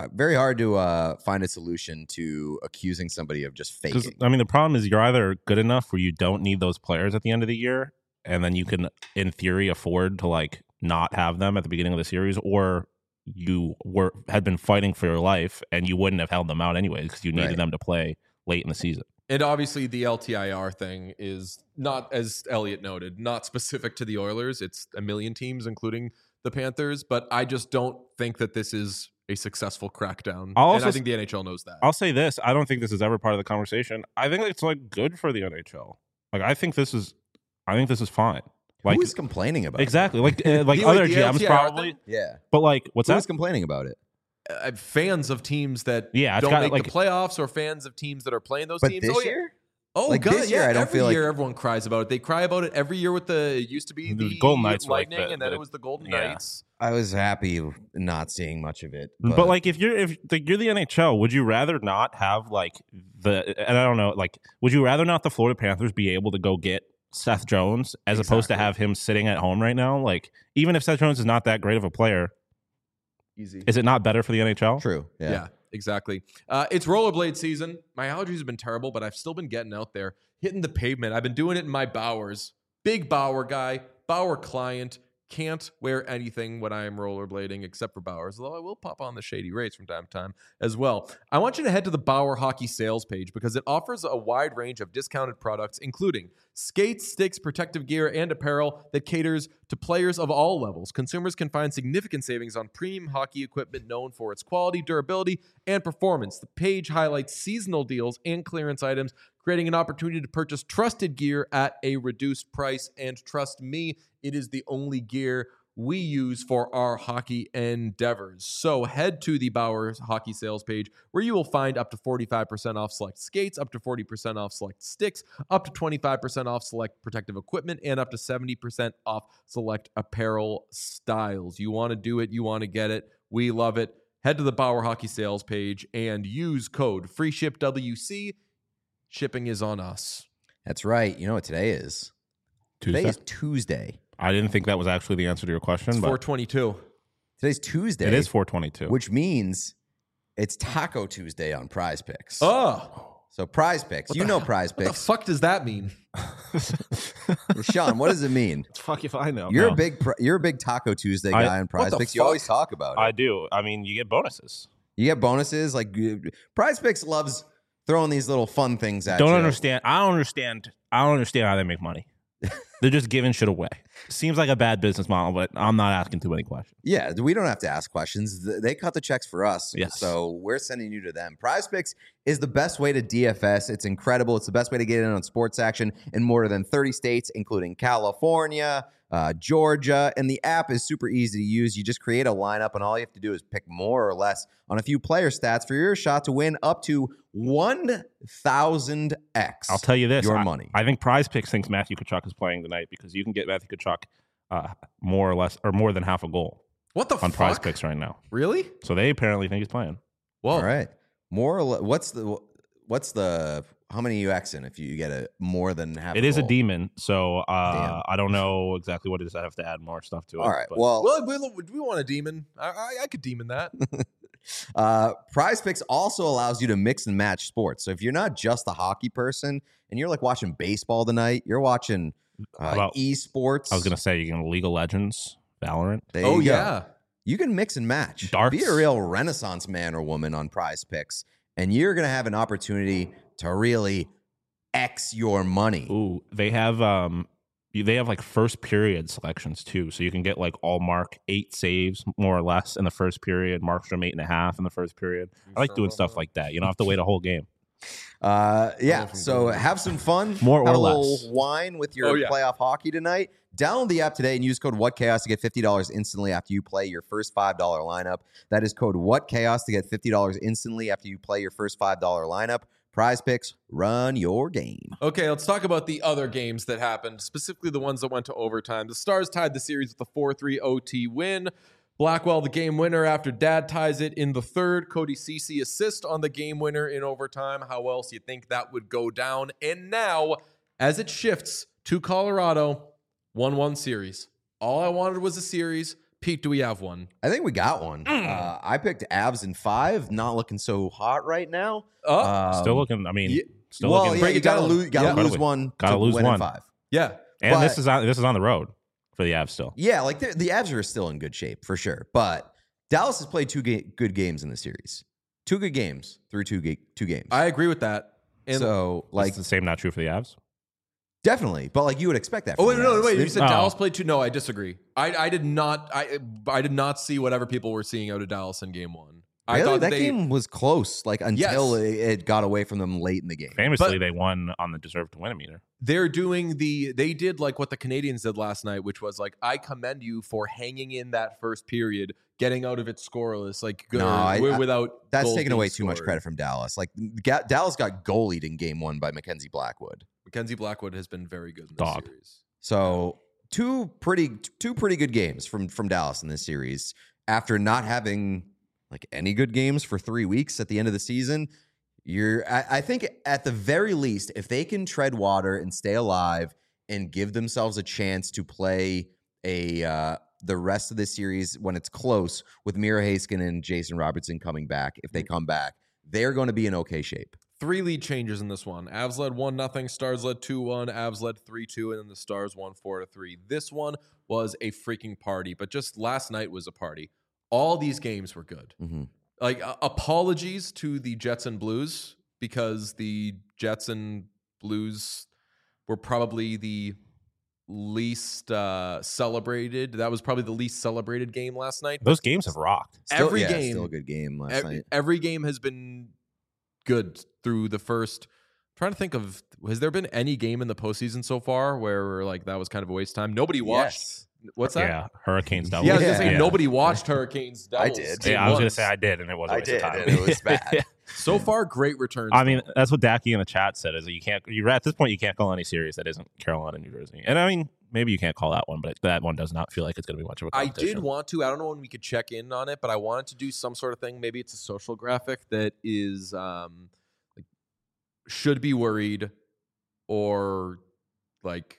to find a solution to accusing somebody of just Because faking. I mean, the problem is you're either good enough where you don't need those players at the end of the year, and then you can, in theory, afford to like not have them at the beginning of the series, or you had been fighting for your life and you wouldn't have held them out anyway because you needed Right. them to play late in the season. And obviously the LTIR thing is not, as Elliot noted, not specific to the Oilers. It's a million teams, including the Panthers. But I just don't think that this is a successful crackdown. And I think the NHL knows that. I'll say this: I don't think this is ever part of the conversation. I think it's like good for the NHL. Like I think this is fine. Like Who is complaining about exactly like The other LTIR GMs thing? probably. it? Yeah. But like, what's Who that? is complaining about it? Fans of teams that Yeah, it's don't got, make like- the playoffs, or fans of teams that are playing those But teams. this Oh, yeah. year? Oh, Like, God, this year, yeah. I don't every feel like- year everyone cries about it. They cry about it every year with it used to be The the Golden Knights were like Lightning, the- and then the- it was the Golden yeah. Knights. I was happy not seeing much of it. But like, if you're the NHL, would you rather not have like and I don't know, like, would you rather not the Florida Panthers be able to go get Seth Jones as opposed to Exactly. have him sitting at home right now? Like, even if Seth Jones is not that great of a player, Easy. is it not better for the NHL? True. Yeah, exactly. It's rollerblade season. My allergies have been terrible, but I've still been getting out there, hitting the pavement. I've been doing it in my Bowers. Big Bauer guy, Bauer client. can't wear anything when I am rollerblading except for Bauer's, although I will pop on the Shady Rays from time to time as well. I want you to head to the Bauer Hockey sales page because it offers a wide range of discounted products, including skates, sticks, protective gear, and apparel that caters to players of all levels. Consumers can find significant savings on premium hockey equipment known for its quality, durability, and performance. The page highlights seasonal deals and clearance items, creating an opportunity to purchase trusted gear at a reduced price. And trust me, it is the only gear we use for our hockey endeavors. So head to the Bauer Hockey sales page where you will find up to 45% off select skates, up to 40% off select sticks, up to 25% off select protective equipment, and up to 70% off select apparel styles. You want to do it, you want to get it. We love it. Head to the Bauer Hockey sales page and use code FREESHIPWC. Shipping is on us. That's right. You know what today is? Tuesday? Today is Tuesday. I didn't think that was actually the answer to your question, It's but 422. Today's Tuesday. it is 422. Which means it's Taco Tuesday on Prize Picks. Oh, So Prize Picks. You know Prize what the Picks. fuck does that mean? Sean, what does it mean? Fuck if I know. You're No. a big Taco Tuesday guy on Prize the Picks. You fuck? always talk about it. I do. I mean, you get bonuses. You get bonuses. Like Prize Picks loves throwing these little fun things at you. I don't understand how they make money. They're just giving shit away. Seems like a bad business model, but I'm not asking too many questions. Yeah, we don't have to ask questions. They cut the checks for us. Yes. So we're sending you to them. Prize Picks is the best way to DFS. It's incredible. It's the best way to get in on sports action in more than 30 states, including California, Georgia. And the app is super easy to use. You just create a lineup, and all you have to do is pick more or less on a few player stats for your shot to win up to 1,000x. I'll tell you this. Your money. I think Prize Picks thinks Matthew Tkachuk is playing tonight because you can get Matthew Tkachuk more or less or more than half a goal What the on fuck? Prize Picks right now. Really? So they apparently think he's playing. Whoa. All right. More or less, what's the how many you Xing if you get a more than half? It is a goal? demon, so Damn. I don't know exactly what it is. I have to add more stuff to it. All right. but- Well, Well, we want a demon. I could demon that. Prize Picks also allows you to mix and match sports. So if you're not just a hockey person and you're like watching baseball tonight, you're watching about- esports. I was gonna say you can League of Legends, Valorant. There Oh you go. yeah. You can mix and match. Darts. Be a real Renaissance man or woman on Prize Picks, and you're gonna have an opportunity to really X your money. Ooh, they have like first period selections too, so you can get like all Mark 8 saves more or less in the first period, Markstrom 8.5 in the first period. I like doing stuff like that. You don't have to wait a whole game. Yeah. So have some fun. More or have a less. little wine with your Oh, yeah. playoff hockey tonight. Download the app today and use code WhatChaos to get $50 instantly after you play your first $5 lineup. That is code WhatChaos to get $50 instantly after you play your first $5 lineup. Prize Picks, run your game. Okay, let's talk about the other games that happened, specifically the ones that went to overtime. The Stars tied the series with a 4-3 OT win. Blackwell, the game winner after Dad ties it in the third. Cody Ceci assist on the game winner in overtime. How else you think that would go down? And now, as it shifts to Colorado, 1-1 series. All I wanted was a series. Pete, do we have one? I think we got one. I picked Avs in 5. Not looking so hot right now. Still looking. I mean, yeah, still Well, looking. yeah, Break you it gotta down. lose. Gotta Yeah. lose one. Gotta to lose win in one. 5. Yeah. And but- this is on the road for the Avs still. Yeah, like the Avs are still in good shape for sure. But Dallas has played good games in the series. 2 good games through two games. I agree with that. And So Like like the same not true for the Avs. definitely, but like you would expect that. Oh from wait, the no, Avs. wait! You They- said Oh. Dallas played 2. No, I disagree. I did not. I did not see whatever people were seeing out of Dallas in Game 1. I Really? thought That they, game was close, like until Yes. it got away from them late in the game. Famously, But- they won on the deserve to win meter. they're doing they did like what the Canadians did last night, which was like, I commend you for hanging in that first period, getting out of it scoreless, like good, No, I- without That's goals taking being away too much scored. credit from Dallas. Like Dallas got goalied in Game 1 by Mackenzie Blackwood. Mackenzie Blackwood has been very good in this Dog. series. So two pretty good games from Dallas in this series after not having like any good games for 3 weeks at the end of the season. I think at the very least, if they can tread water and stay alive and give themselves a chance to play the rest of the series when it's close with Mira Haskin and Jason Robertson coming back, if they come back, they're going to be in okay shape. 3 lead changes in this one. Avs led 1-0, Stars led 2-1, Avs led 3-2, and then the Stars won 4-3. This one was a freaking party, but just last night was a party. All these games were good. Mm-hmm. Like, apologies to the Jets and Blues, because the Jets and Blues were probably the least celebrated. That was probably the least celebrated game last night. Those games have rocked. Every game, still a good game last night. Every game has been good through the first. I'm trying to think of, has there been any game in the postseason so far where like that was kind of a waste of time? Nobody watched. Yes. What's that? Yeah, Hurricanes double. Yeah, I was gonna say Yeah. nobody watched Hurricanes doubles. I did. Yeah, I was gonna say I did, and it wasn't a waste of time. and it was bad. So far, great returns. I mean, that's what Dacky in the chat said. Is that you can't. You're at this point, you can't call any series that isn't Carolina, New Jersey. And I mean, maybe you can't call that one, but that one does not feel like it's going to be much of a I competition. did want to. I don't know when we could check in on it, but I wanted to do some sort of thing. Maybe it's a social graphic that is like should be worried, or like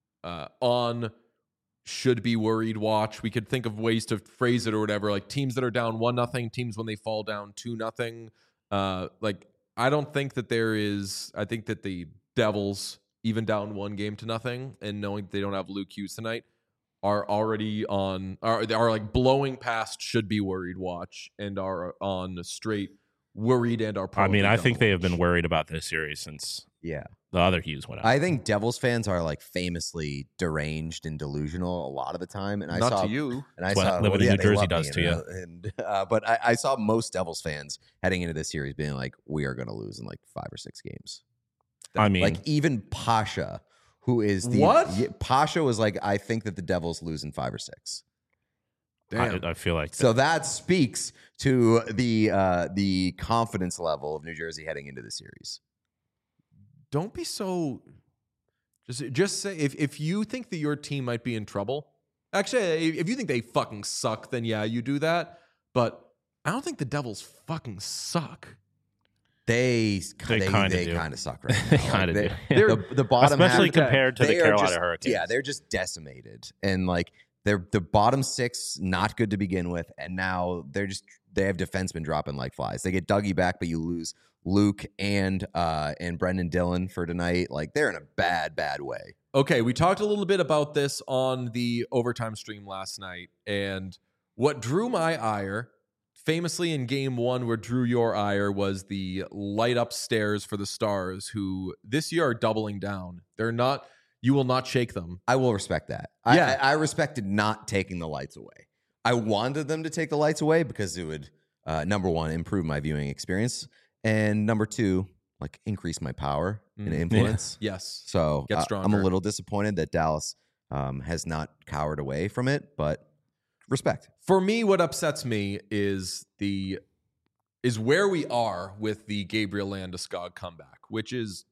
on should be worried watch. We could think of ways to phrase it or whatever, like teams that are down 1-0, teams when they fall down 2-0. Like, I don't think that there is, I think that the Devils, even down 1-0, and knowing that they don't have Luke Hughes tonight, are already on, are like blowing past should be worried watch, and are on straight worried and are I probably mean, I think they have watch. been worried about this series since Yeah. the other Hughes went out. I think Devils fans are like famously deranged and delusional a lot of the time. And I Not saw to you. And I That's what saw living in New they Jersey love does me, to you. And but I saw most Devils fans heading into this series being like, we are going to lose in like 5 or 6 games. I mean, Like even Pasha, who is the What? Yeah, Pasha was like, I think that the Devils lose in 5 or 6. Damn. I feel like So that speaks to the confidence level of New Jersey heading into the series. Don't be so. Just say if you think that your team might be in trouble. Actually, if you think they fucking suck, then yeah, you do that. But I don't think the Devils fucking suck. They kinda do. kind of suck right now. They kinda Like, do. The bottom especially half, compared to the they are Carolina just- Hurricanes. Yeah, they're just decimated, and like they're the bottom 6 not good to begin with, and now they have defensemen dropping like flies. They get Dougie back, but you lose Luke and Brendan Dillon for tonight. Like they're in a bad way. Okay, we talked a little bit about this on the overtime stream last night, and what drew my ire, famously in game 1, where drew your ire, was the light upstairs for the Stars, who this year are doubling down. They're not. You will not shake them. I will respect that. Yeah. I respected not taking the lights away. I wanted them to take the lights away because it would, number one, improve my viewing experience, and number 2, like increase my power and influence. Yes. So Get I'm stronger. a little disappointed that Dallas has not cowered away from it, but respect. For me, what upsets me is where we are with the Gabriel Landeskog comeback, which is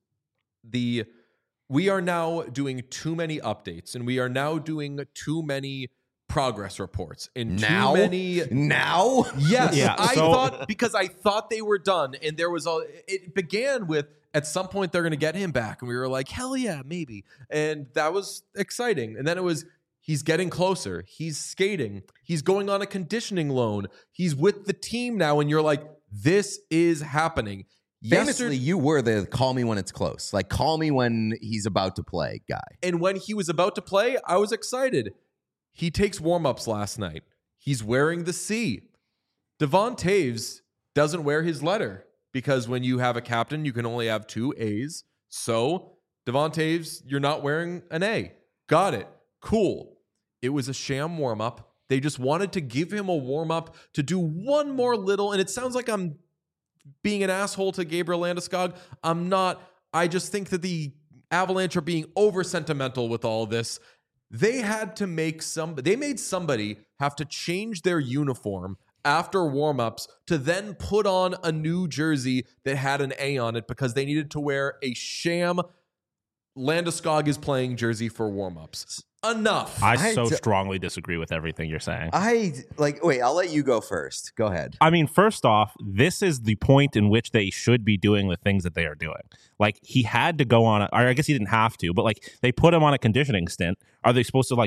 we are now doing too many updates, and we are now doing too many progress reports and Now? too many. Now, Yes, Yeah, I so- thought, because I thought they were done, and there was it began with, at some point they're going to get him back, and we were like, hell yeah, maybe, and that was exciting. And then it was, he's getting closer, he's skating, he's going on a conditioning loan, he's with the team now, and you're like, this is happening. famously, you were the call me when it's close, like call me when he's about to play guy. And when he was about to play, I was excited. He takes warm-ups last night. He's wearing the C. Devon Taves doesn't wear his letter, because when you have a captain, you can only have 2 A's. So, Devon Taves, you're not wearing an A. Got it. Cool. It was a sham warm-up. They just wanted to give him a warm-up to do one more little, and it sounds like I'm being an asshole to Gabriel Landeskog. I'm not. I just think that the Avalanche are being over sentimental with all this. They had to make they made somebody have to change their uniform after warm-ups to then put on a new jersey that had an A on it, because they needed to wear a sham Landeskog is playing jersey for warm-ups. Enough. I so I- strongly disagree with everything you're saying. Wait, I'll let you go first. Go ahead. I mean, first off, this is the point in which they should be doing the things that they are doing. Like, he had to go on, or I guess he didn't have to, but like they put him on a conditioning stint. Are they supposed to like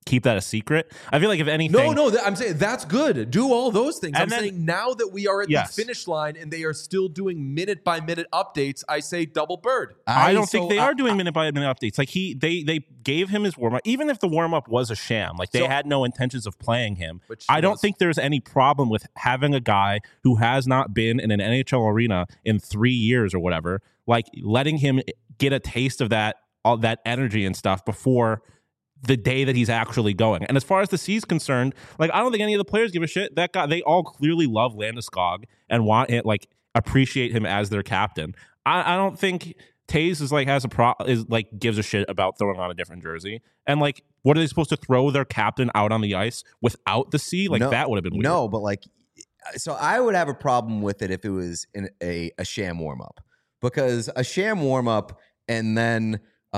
keep that a secret. I feel like if anything, I'm saying that's good. Do all those things. And I'm then- saying now that we are at Yes. the finish line and they are still doing minute by minute updates, I say double bird. I don't think they are doing minute by minute updates. Like they gave him his warm up, even if the warm up was a sham. Like they had no intentions of playing him. Which I don't was- think there's any problem with having a guy who has not been in an NHL arena in 3 years or whatever, like letting him get a taste of all that energy and stuff before the day that he's actually going. And as far as the C's concerned, like I don't think any of the players give a shit. That guy, they all clearly love Landeskog and want it, like appreciate him as their captain. I don't think Taves is like gives a shit about throwing on a different jersey. And like, what are they supposed to throw their captain out on the ice without the C? Like that would have been weird. No, but like, so I would have a problem with it if it was in a sham warm up, because a sham warm up and then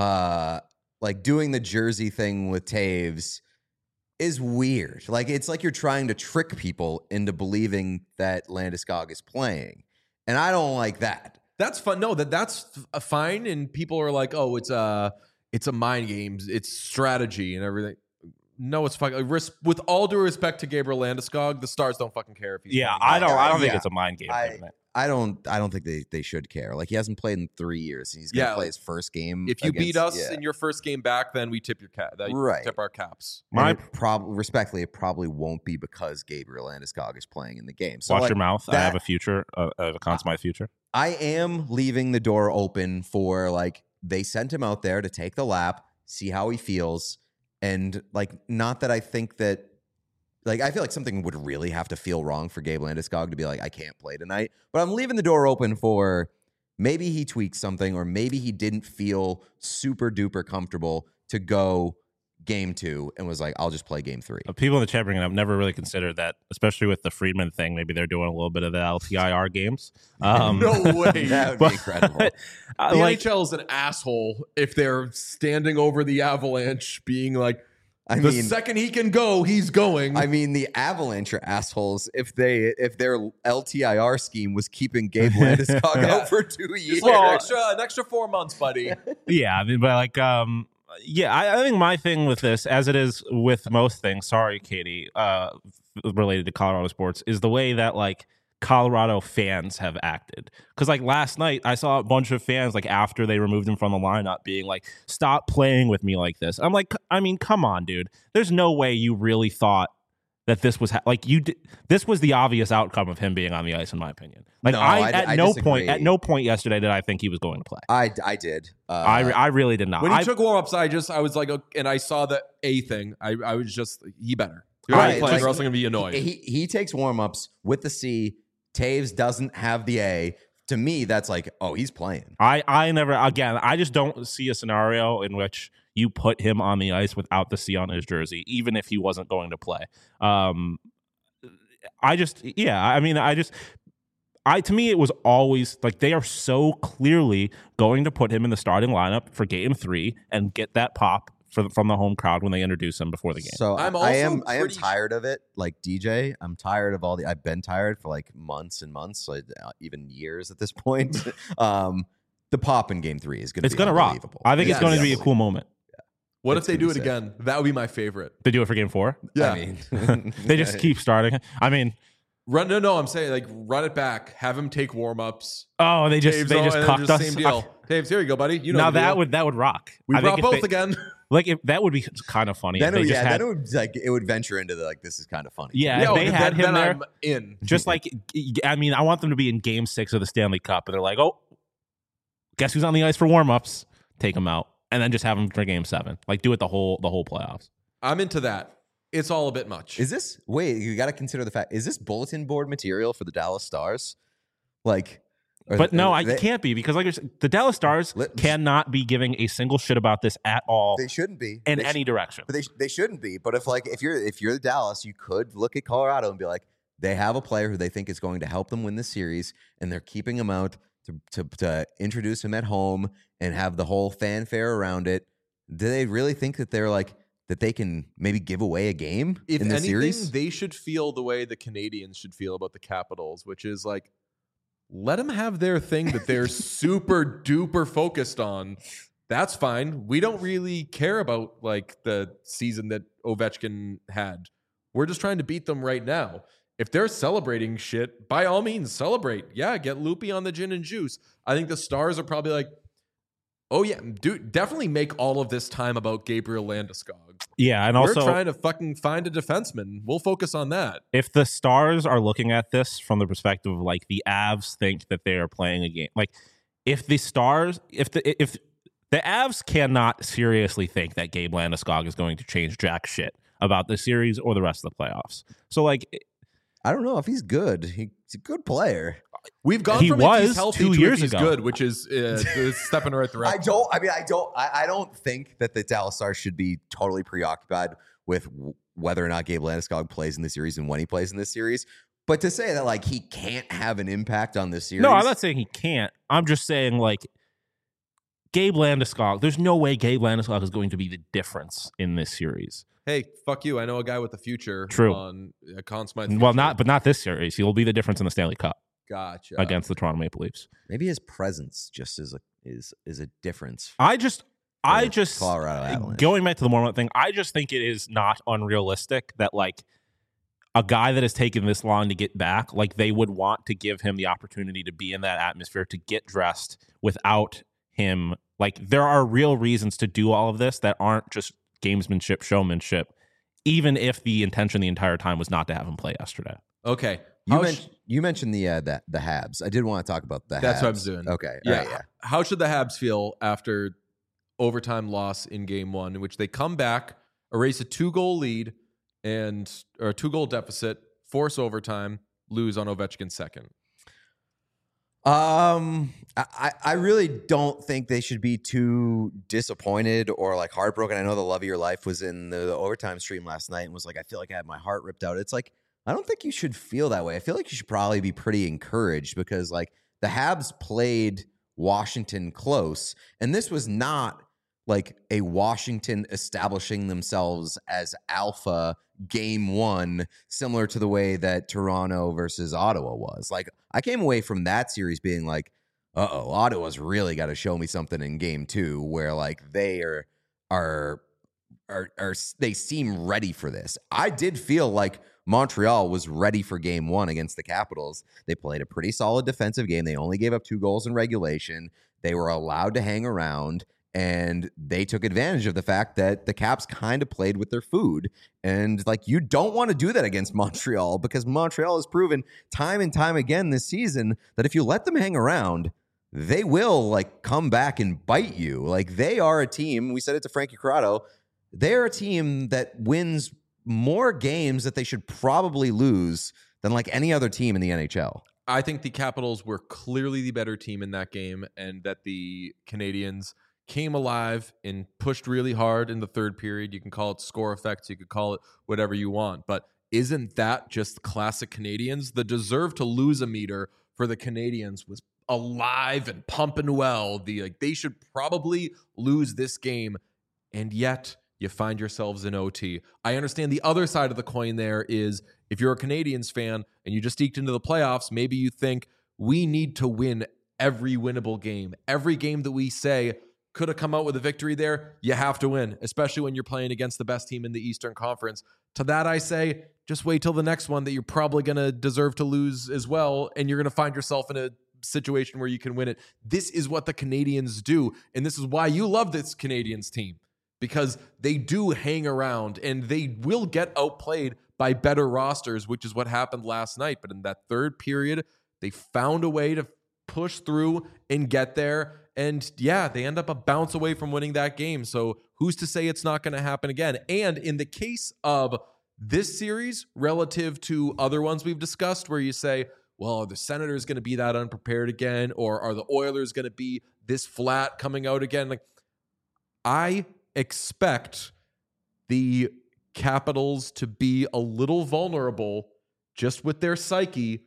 like doing the jersey thing with Taves is weird. Like it's like you're trying to trick people into believing that Landeskog is playing, and I don't like that. That's fun. No, that's fine. And people are like, oh, it's a mind games. It's strategy and everything. No, it's fucking. With all due respect to Gabriel Landeskog, the Stars don't fucking care if he's. Yeah, playing. I don't think yeah. it's a mind game. I don't think they should care. Like he hasn't played in 3 years, and he's gonna play his first game. If you beat against- us in your first game back, then we tip your cap. Right. Tip our caps. Respectfully, it probably won't be because Gabriel Landeskog is playing in the game. So Watch like, your mouth. I that- have a future. I have a Conn Smythe future. I am leaving the door open for like they sent him out there to take the lap, see how he feels, and like not that I think that like I feel like something would really have to feel wrong for Gabe Landeskog to be like I can't play tonight, but I'm leaving the door open for maybe he tweaked something or maybe he didn't feel super duper comfortable to go game 2 and was like I'll just play game 3. People in the chat bringing up never really considered that, especially with the Friedman thing. Maybe they're doing a little bit of the LTIR games. No way. That would be incredible. The like, NHL is an asshole if they're standing over the Avalanche, being like, I the mean, second he can go, he's going. I mean, the Avalanche are assholes if their LTIR scheme was keeping Gabe Landeskog Yeah. out for 2 years. Just like an extra 4 months, buddy. yeah, I mean, but like, yeah, I think my thing with this, as it is with most things, sorry, Katie, related to Colorado sports, is the way that like Colorado fans have acted. Because like last night, I saw a bunch of fans like after they removed him from the lineup being like, "Stop playing with me like this." I'm like, I mean, come on, dude. There's no way you really thought that this was this was the obvious outcome of him being on the ice, in my opinion. Like No, I I no disagree. point yesterday did I think he was going to play. I did. I really did not. When he took warm-ups, I was like, okay, and I saw the A thing. I was just, he better. You're Right, right, playing, like, or else I'm going to be annoyed. he takes warm-ups with the C. Taves doesn't have the A. To me, that's like, oh, he's playing. I never, again, I just don't see a scenario in which you put him on the ice without the C on his jersey, even if he wasn't going to play. To me, it was always like they are so clearly going to put him in the starting lineup for game 3 and get that pop from the home crowd when they introduce him before the game. So I'm I am also pretty- tired of it. Like DJ, I'm tired of I've been tired for like months and months, like even years at this point. The pop in game 3 is going to be It's going to rock. unbelievable. I think it's Yes. going to be a cool moment. What It's if they gonna do be it again? That would be my favorite. They do it for game 4. Yeah. I mean, They just keep starting. I mean, No, I'm saying like run it back. Have him take warm-ups. oh, they just and then cucked us. Same deal. Taves, here you go, buddy. You know Now the deal. that would rock. We I think brought if both they- again. Like if that would be kind of funny. then if it, they just had, then it would like it would venture into the like this is kind of funny. yeah, Yo, if they had him then there, I'm in. just like I mean, I want them to be in Game 6 of the Stanley Cup, and they're like, oh, guess who's on the ice for warm-ups? Take him out, and then just have him for Game 7. Like do it the whole playoffs. I'm into that. It's all a bit much. Is this wait? You got to consider the fact. Is this bulletin board material for the Dallas Stars? Like, But no, I can't be because like the Dallas Stars cannot be giving a single shit about this at all They shouldn't be in They any direction. But they shouldn't be. But if you're the Dallas, you could look at Colorado and be like, they have a player who they think is going to help them win this series, and they're keeping him out to introduce him at home and have the whole fanfare around it. Do they really think that they're like that they can maybe give away a game If in the anything, series? they should feel the way the Canadians should feel about the Capitals, which is like, let them have their thing that they're super duper focused on, That's fine. We don't really care about like the season that Ovechkin had. We're just trying to beat them right now. If they're celebrating shit, by all means, celebrate. Yeah, get loopy on the gin and juice. I think the Stars are probably like, oh yeah, dude, definitely make all of this time about Gabriel Landeskog. Yeah, and We're also trying to fucking find a defenseman. We'll focus on that. if the Stars are looking at this from the perspective of like the Avs think that they are playing a game, like if the Stars, if the Avs cannot seriously think that Gabe Landeskog is going to change jack shit about the series or the rest of the playoffs. So like, I don't know if he's good. He's a good player. We've gone He from was if he's healthy 2 to years if he's ago. good, which is a step in the right direction. I don't think that the Dallas Stars should be totally preoccupied with whether or not Gabe Landeskog plays in the series and when he plays in this series. But to say that like he can't have an impact on this series. no, I'm not saying he can't. I'm just saying like Gabe Landeskog. There's no way Gabe Landeskog is going to be the difference in this series. Hey, fuck you. I know a guy with the future True. on Conn Smythe. Well, Future. not this series. He'll be the difference in the Stanley Cup Gotcha. against the Toronto Maple Leafs. Maybe his presence just is a difference. I just Colorado Avalanche. going back to the Mormont thing, I just think it is not unrealistic that like a guy that has taken this long to get back, like they would want to give him the opportunity to be in that atmosphere, to get dressed without him. Like there are real reasons to do all of this that aren't just gamesmanship, showmanship, even if the intention the entire time was not to have him play yesterday. Okay. You mentioned the Habs. I did want to talk about the Habs. That's what I was doing. Okay. Yeah. All right, yeah. How should the Habs feel after overtime loss in game one, in which they come back, erase a 2-goal lead or a 2-goal deficit, force overtime, lose on Ovechkin's second? I really don't think they should be too disappointed or like heartbroken. I know the Love of Your Life was in the overtime stream last night and was like, I feel like I had my heart ripped out. It's like, I don't think you should feel that way. I feel like you should probably be pretty encouraged because like the Habs played Washington close, and this was not like a Washington establishing themselves as alpha game one, similar to the way that Toronto versus Ottawa was. Like I came away from that series being like, Ottawa's really got to show me something in game two, where like they are they seem ready for this. I did feel like Montreal was ready for game one against the Capitals. They played a pretty solid defensive game. They only gave up 2 goals in regulation. They were allowed to hang around, and they took advantage of the fact that the Caps kind of played with their food. And like, you don't want to do that against Montreal, because Montreal has proven time and time again this season that if you let them hang around, they will like come back and bite you. Like they are a team. We said it to Frankie Corrado. They're a team that wins more games that they should probably lose than like any other team in the NHL. I think the Capitals were clearly the better team in that game, and that the Canadians came alive and pushed really hard in the third period. You can call it score effects, you could call it whatever you want, but isn't that just classic Canadians? The deserve to lose a meter for the Canadians was alive and pumping well. They should probably lose this game, and yet you find yourselves in OT. I understand the other side of the coin there is, if you're a Canadians fan and you just eked into the playoffs, maybe you think we need to win every winnable game. Every game that we say could have come out with a victory there, you have to win, especially when you're playing against the best team in the Eastern Conference. To that I say, just wait till the next one that you're probably going to deserve to lose as well, and you're going to find yourself in a situation where you can win it. This is what the Canadians do, and this is why you love this Canadians team, because they do hang around and they will get outplayed by better rosters, which is what happened last night. But in that third period, they found a way to push through and get there. And yeah, they end up a bounce away from winning that game. So who's to say it's not going to happen again? And in the case of this series, relative to other ones we've discussed, where you say, well, are the Senators going to be that unprepared again? Or are the Oilers going to be this flat coming out again? Like, I expect the Capitals to be a little vulnerable just with their psyche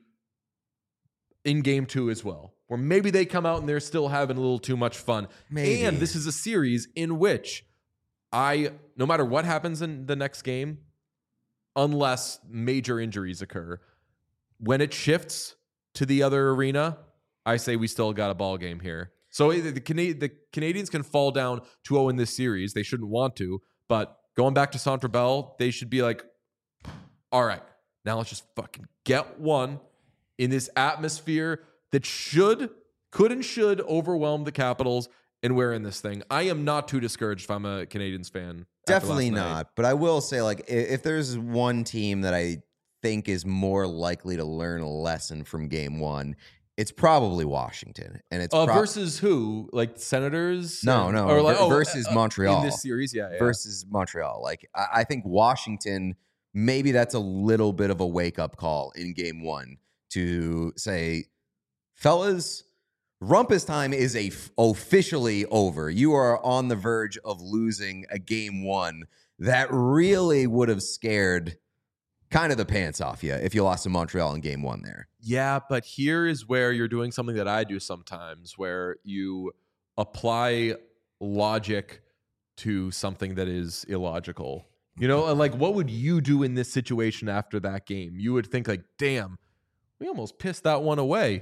in game two as well, where maybe they come out and they're still having a little too much fun. Maybe. And this is a series in which no matter what happens in the next game, unless major injuries occur, when it shifts to the other arena, I say we still got a ball game here. So the Canadians can fall down 2-0 in this series. They shouldn't want to, but going back to Centre Bell, they should be like, all right, now let's just fucking get one in this atmosphere that could and should overwhelm the Capitals, and we're in this thing. I am not too discouraged if I'm a Canadians fan. Definitely not. But I will say, like, if there's one team that I think is more likely to learn a lesson from game one, it's probably Washington. And it's versus who? Like Senators? No. Or like, versus Montreal. In this series, yeah. Versus Montreal. Like, I think Washington, maybe that's a little bit of a wake-up call in game one to say, fellas, Rumpus time is officially over. You are on the verge of losing a game one that really would have scared kind of the pants off you if you lost to Montreal in game one there. Yeah, but here is where you're doing something that I do sometimes, where you apply logic to something that is illogical. You know, like, what would you do in this situation after that game? You would think like, damn, we almost pissed that one away.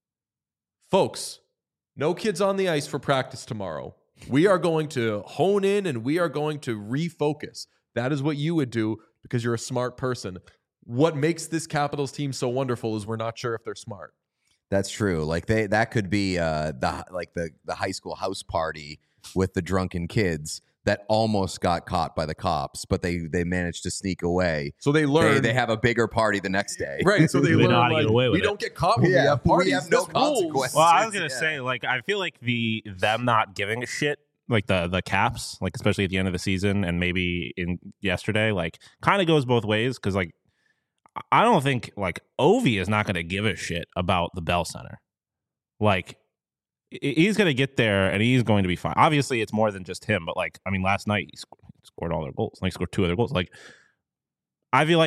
Folks, no kids on the ice for practice tomorrow. We are going to hone in and we are going to refocus. That is what you would do because you're a smart person. What makes this Capitals team so wonderful is we're not sure if they're smart. That's true. Like that could be the high school house party with the drunken kids that almost got caught by the cops, but they managed to sneak away. So they learn they have a bigger party the next day. Right. So they learn like, we don't get caught when we have parties. We have no consequences. Well, I was gonna say, like, I feel like them not giving a shit, like the Caps, like especially at the end of the season and maybe in yesterday, like kind of goes both ways because like I don't think like Ovi is not going to give a shit about the Bell Center. Like he's going to get there and he's going to be fine. Obviously, it's more than just him, but like I mean, last night he scored all their goals. Like, he scored 2 other goals. Like I feel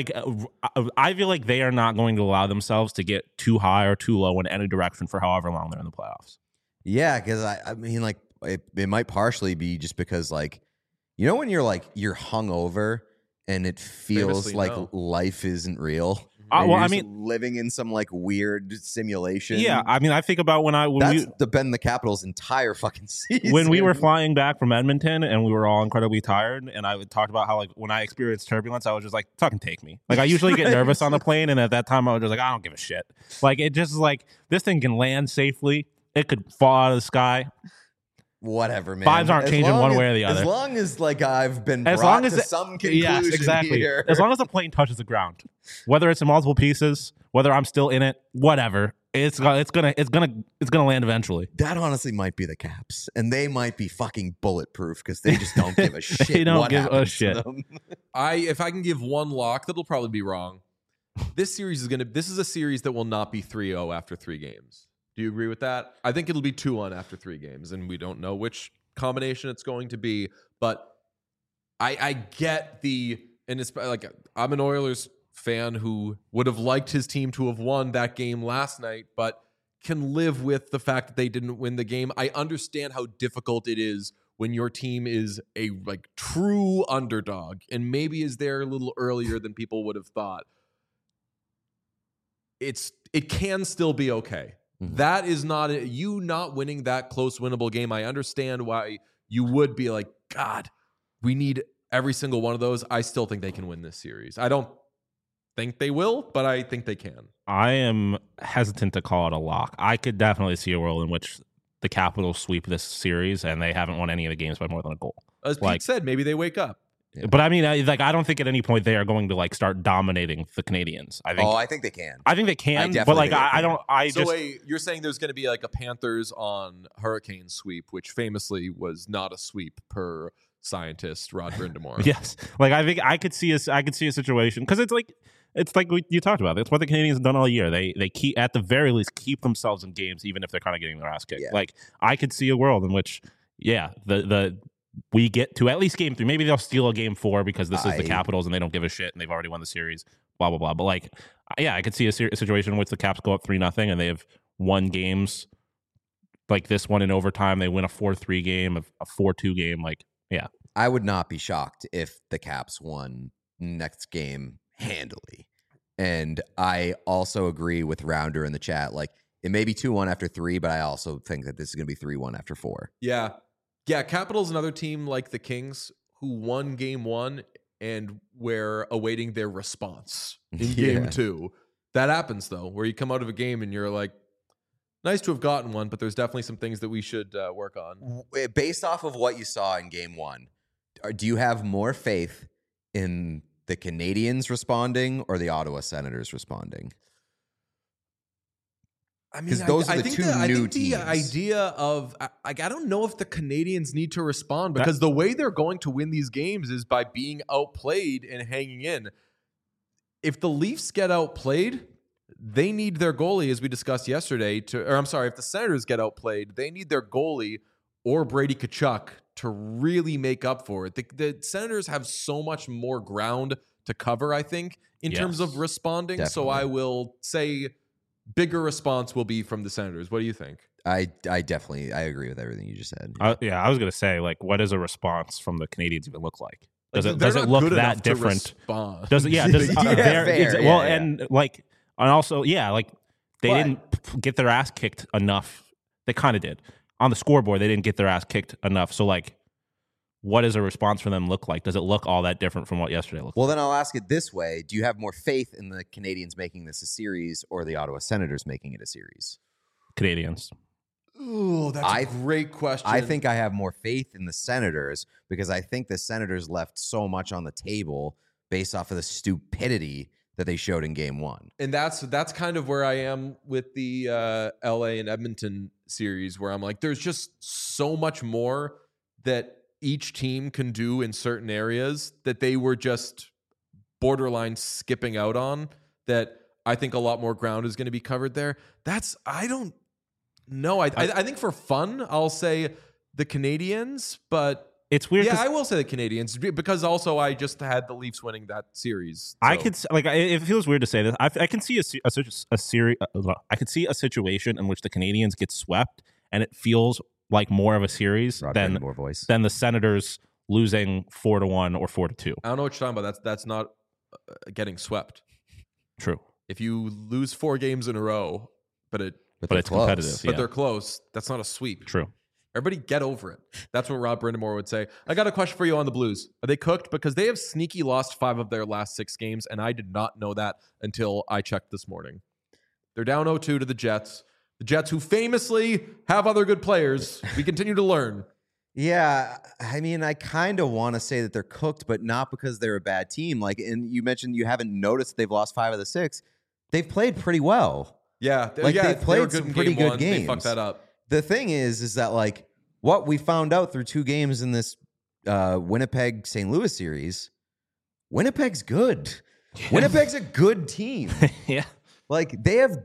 like they are not going to allow themselves to get too high or too low in any direction for however long they're in the playoffs. Yeah, because I mean, like it might partially be just because, like, you know, when you're hungover and it feels Famously, like no. life isn't real. Well, You're I just mean, living in some like weird simulation. yeah, I mean, I think about That's been the Capitals' entire fucking season. when we were flying back from Edmonton and we were all incredibly tired, and I talked about how like when I experienced turbulence, I was just like, fucking take me. Like I usually get nervous on the plane, and at that time I was just like, I don't give a shit. Like it just like this thing can land safely. It could fall out of the sky. Whatever, man. Vibes aren't changing one way or the other. As long as like I've been As brought long as to some conclusion yes, exactly. here. As long as the plane touches the ground, whether it's in multiple pieces, whether I'm still in it, whatever, it's gonna land eventually. That honestly might be the Caps, and they might be fucking bulletproof because they just don't give a shit. They don't what give a happens to shit. them. If I can give one lock, that'll probably be wrong. This is a series that will not be 3-0 after 3 games. Do you agree with that? I think it'll be 2-1 after 3 games, and we don't know which combination it's going to be, but I get and it's like I'm an Oilers fan who would have liked his team to have won that game last night, but can live with the fact that they didn't win the game. I understand how difficult it is when your team is a like true underdog and maybe is there a little earlier than people would have thought. It can still be okay. Mm-hmm. That is not you not winning that close winnable game. I understand why you would be like, God, we need every single one of those. I still think they can win this series. I don't think they will, but I think they can. I am hesitant to call it a lock. I could definitely see a world in which the Capitals sweep this series and they haven't won any of the games by more than a goal. As Pete said, maybe they wake up. Yeah. But I mean, I don't think at any point they are going to like start dominating the Canadians. I think they can. But like, I don't. Wait, you're saying there's going to be like a Panthers on Hurricane sweep, which famously was not a sweep per scientist Rod Brindamore. Yes, like I think I could see a situation because it's like you talked about. It's what the Canadians have done all year. They keep at the very least keep themselves in games, even if they're kind of getting their ass kicked. Yeah. Like I could see a world in which, we get to at least game 3. Maybe they'll steal a game 4 because this is the Capitals and they don't give a shit and they've already won the series, blah, blah, blah. But like, yeah, I could see a situation in which the Caps go up 3-0 and they have won games like this one in overtime. They win a 4-3 game, a 4-2 game. Like, yeah. I would not be shocked if the Caps won next game handily. And I also agree with Rounder in the chat. Like, It may be 2-1 after 3, but I also think that this is going to be 3-1 after 4. Yeah. Yeah, Capital's another team like the Kings who won game 1 and we're awaiting their response in game 2. That happens, though, where you come out of a game and you're like, nice to have gotten one, but there's definitely some things that we should work on. Based off of what you saw in game 1, do you have more faith in the Canadiens responding or the Ottawa Senators responding? I mean, those are the two new teams. The idea of, I don't know if the Canadiens need to respond because the way they're going to win these games is by being outplayed and hanging in. If the Leafs get outplayed, they need their goalie, as we discussed yesterday, if the Senators get outplayed, they need their goalie or Brady Tkachuk to really make up for it. The Senators have so much more ground to cover, I think, in terms of responding. Definitely. So I will say bigger response will be from the Senators. What do you think? I agree with everything you just said. I was going to say, like, what does a response from the Canadiens even look like? Does it They're not look good enough that to different? respond. Does it? Yeah. Does fair. Well, Yeah. and like, and also, yeah, like they didn't get their ass kicked enough. They kind of did on the scoreboard. They didn't get their ass kicked enough. So, like, what does a response from them look like? Does it look all that different from what yesterday looked? Well, then I'll ask it this way: do you have more faith in the Canadiens making this a series or the Ottawa Senators making it a series? Canadiens. Oh, that's a great question. I think I have more faith in the Senators because I think the Senators left so much on the table based off of the stupidity that they showed in game 1. And that's kind of where I am with the LA and Edmonton series, where I'm like, there's just so much more that each team can do in certain areas that they were just borderline skipping out on, that I think a lot more ground is going to be covered there. I don't know. I think for fun, I'll say the Canadiens, but it's weird. Yeah, I will say the Canadiens because also I just had the Leafs winning that series. So. I could it feels weird to say this. I can see a series. I could see a situation in which the Canadiens get swept, and it feels like more of a series than the Senators losing 4-1 or 4-2. I don't know what you're talking about. That's not getting swept. True. If you lose 4 games in a row, but it's close. Competitive, but they're close, that's not a sweep. True. Everybody get over it. That's what Rob Brindamore would say. I got a question for you on the Blues. Are they cooked? Because they have sneaky lost 5 of their last 6 games, and I did not know that until I checked this morning. They're down 0-2 to the Jets. The Jets, who famously have other good players. We continue to learn. Yeah, I mean, I kind of want to say that they're cooked, but not because they're a bad team. Like, and you mentioned you haven't noticed they've lost 5 of the 6. They've played pretty well. Yeah, they've played some pretty good games. They fucked that up. The thing is that like what we found out through 2 games in this Winnipeg St. Louis series, Winnipeg's good. Winnipeg's a good team. Yeah, like they have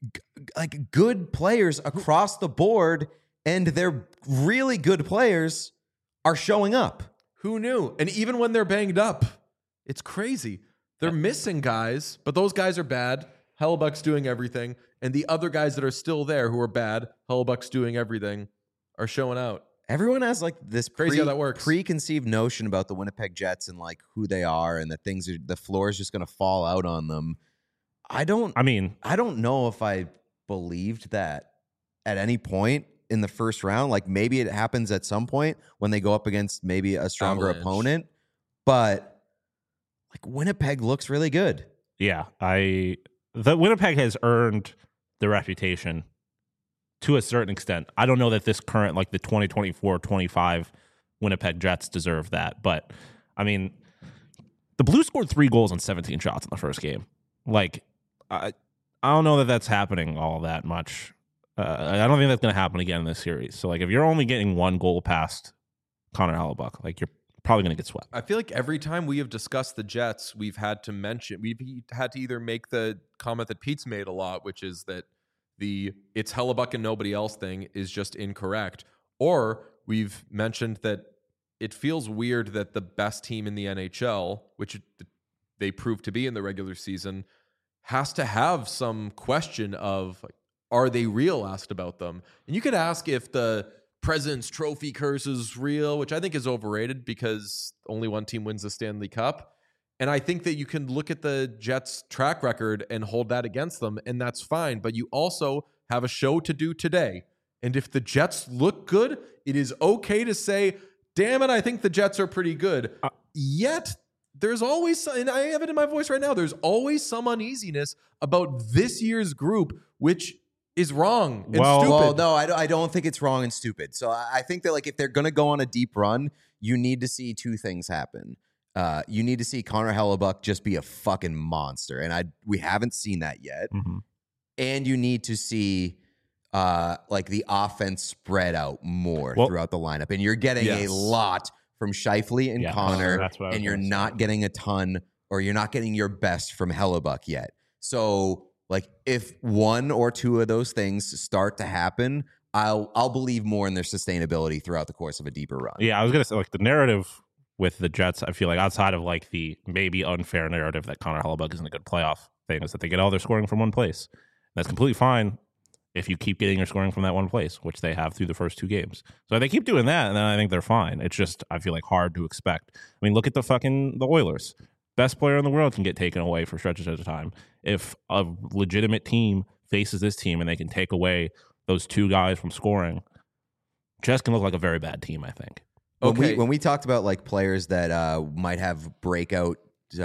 like good players across the board, and their really good players are showing up. Who knew? And even when they're banged up, it's crazy. They're missing guys, but those guys are bad. Hellebuck's doing everything. And the other guys that are still there who are bad, Hellebuck's doing everything, are showing out. Everyone has like this crazy how that works. Preconceived notion about the Winnipeg Jets and like who they are and that the floor is just going to fall out on them. I don't know if I believed that at any point in the first round. Like maybe it happens at some point when they go up against maybe a stronger opponent, but like Winnipeg looks really good. Yeah, the Winnipeg has earned the reputation to a certain extent. I don't know that this current, like the 2024-25 Winnipeg Jets deserve that. But, I mean, the Blues scored 3 goals on 17 shots in the first game. Like, I don't know that that's happening all that much. I don't think that's going to happen again in this series. So, like, if you're only getting 1 goal past Connor Hellebuck, like, you're probably going to get swept. I feel like every time we have discussed the Jets, we've had to either make the comment that Pete's made a lot, which is that it's Hellebuck and nobody else thing is just incorrect. Or we've mentioned that it feels weird that the best team in the NHL, which they proved to be in the regular season, has to have some question of, like, are they real asked about them? And you could ask if the President's Trophy curse is real, which I think is overrated because only one team wins the Stanley Cup. And I think that you can look at the Jets' track record and hold that against them, and that's fine. But you also have a show to do today. And if the Jets look good, it is okay to say, damn it, I think the Jets are pretty good. Yet, there's always, and I have it in my voice right now, there's always some uneasiness about this year's group, which is wrong and stupid. Well, no, I don't think it's wrong and stupid. So I think that like if they're going to go on a deep run, you need to see two things happen. You need to see Connor Hellebuyck just be a fucking monster, and we haven't seen that yet. Mm-hmm. And you need to see like the offense spread out more throughout the lineup, and you're getting a lot from Scheifele and Connor, and you're not getting a ton, or you're not getting your best from Hellebuyck yet. So, like, if one or two of those things start to happen, I'll believe more in their sustainability throughout the course of a deeper run. Yeah, I was gonna say like the narrative with the Jets, I feel like outside of like the maybe unfair narrative that Connor Hellebuyck isn't a good playoff thing, is that they get all their scoring from one place. That's completely fine if you keep getting your scoring from that one place, which they have through the first two games. So if they keep doing that, and then I think they're fine. It's just, I feel like, hard to expect. I mean, look at the Oilers. Best player in the world can get taken away for stretches at a time. If a legitimate team faces this team and they can take away those two guys from scoring, Jets can look like a very bad team, I think. When we talked about like players that might have breakout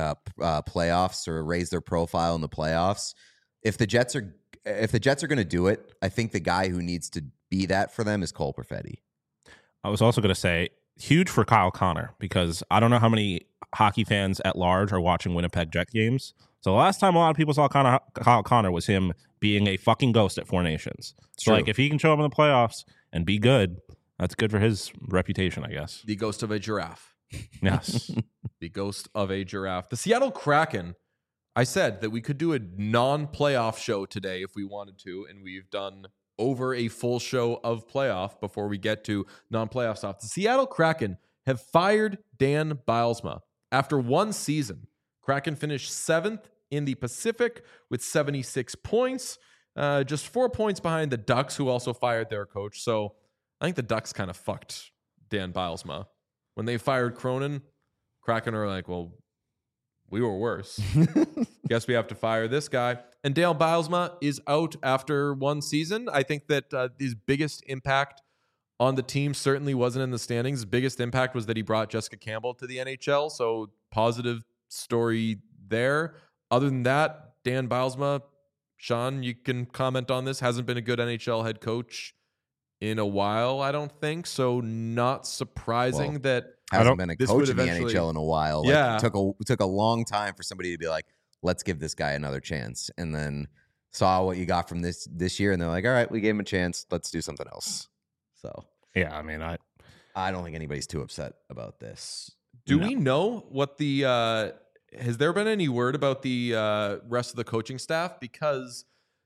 playoffs or raise their profile in the playoffs, if the Jets are going to do it, I think the guy who needs to be that for them is Cole Perfetti. I was also going to say huge for Kyle Connor, because I don't know how many hockey fans at large are watching Winnipeg Jet games. So the last time a lot of people saw Kyle Connor was him being a fucking ghost at Four Nations. So like if he can show up in the playoffs and be good, that's good for his reputation, I guess. The ghost of a giraffe. Yes. The ghost of a giraffe. The Seattle Kraken. I said that we could do a non-playoff show today if we wanted to, and we've done over a full show of playoff before we get to non-playoff stuff. The Seattle Kraken have fired Dan Bylsma. After one season, Kraken finished 7th in the Pacific with 76 points, just 4 points behind the Ducks, who also fired their coach. So I think the Ducks kind of fucked Dan Bylsma. When they fired Cronin, Kraken are like, well, we were worse. Guess we have to fire this guy. And Dale Bylsma is out after one season. I think that his biggest impact on the team certainly wasn't in the standings. His biggest impact was that he brought Jessica Campbell to the NHL. So positive story there. Other than that, Dan Bylsma, Sean, you can comment on this, hasn't been a good NHL head coach in a while, I don't think. So not surprising that hasn't been a coach in the NHL in a while. Like, it took a long time for somebody to be like, let's give this guy another chance. And then saw what you got from this year, and they're like, all right, we gave him a chance. Let's do something else. So yeah, I mean, I don't think anybody's too upset about this. Do we know what the has there been any word about the rest of the coaching staff? Because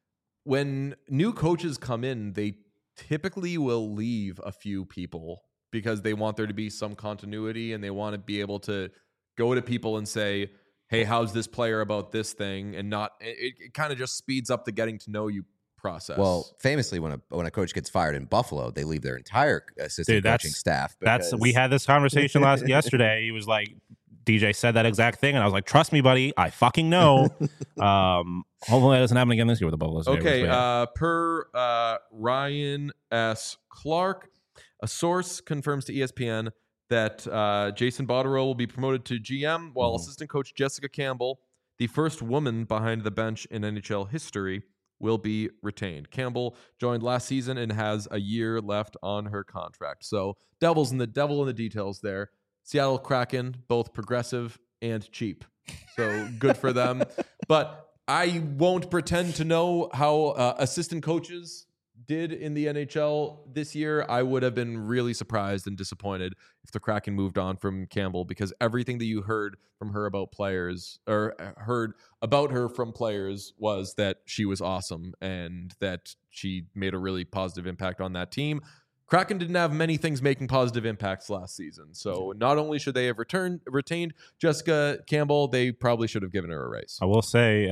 when new coaches come in, they typically will leave a few people because they want there to be some continuity, and they want to be able to go to people and say, hey, how's this player about this thing? And not, it kind of just speeds up the getting to know you process. Well, famously, when a coach gets fired in Buffalo, they leave their entire assistant coaching staff. We had this conversation yesterday. He was like, DJ said that exact thing, and I was like, trust me, buddy, I fucking know. Hopefully that doesn't happen again this year with the Buffalo Sabres. Okay, per Ryan S. Clark, a source confirms to ESPN that Jason Botterill will be promoted to GM, while assistant coach Jessica Campbell, the first woman behind the bench in NHL history, will be retained. Campbell joined last season and has a year left on her contract. So devil in the details there. Seattle Kraken, both progressive and cheap. So good for them. But I won't pretend to know how assistant coaches did in the NHL this year. I would have been really surprised and disappointed if the Kraken moved on from Campbell, because everything that you heard from her about players, or heard about her from players, was that she was awesome and that she made a really positive impact on that team. Kraken didn't have many things making positive impacts last season. So not only should they have retained Jessica Campbell, they probably should have given her a raise. I will say,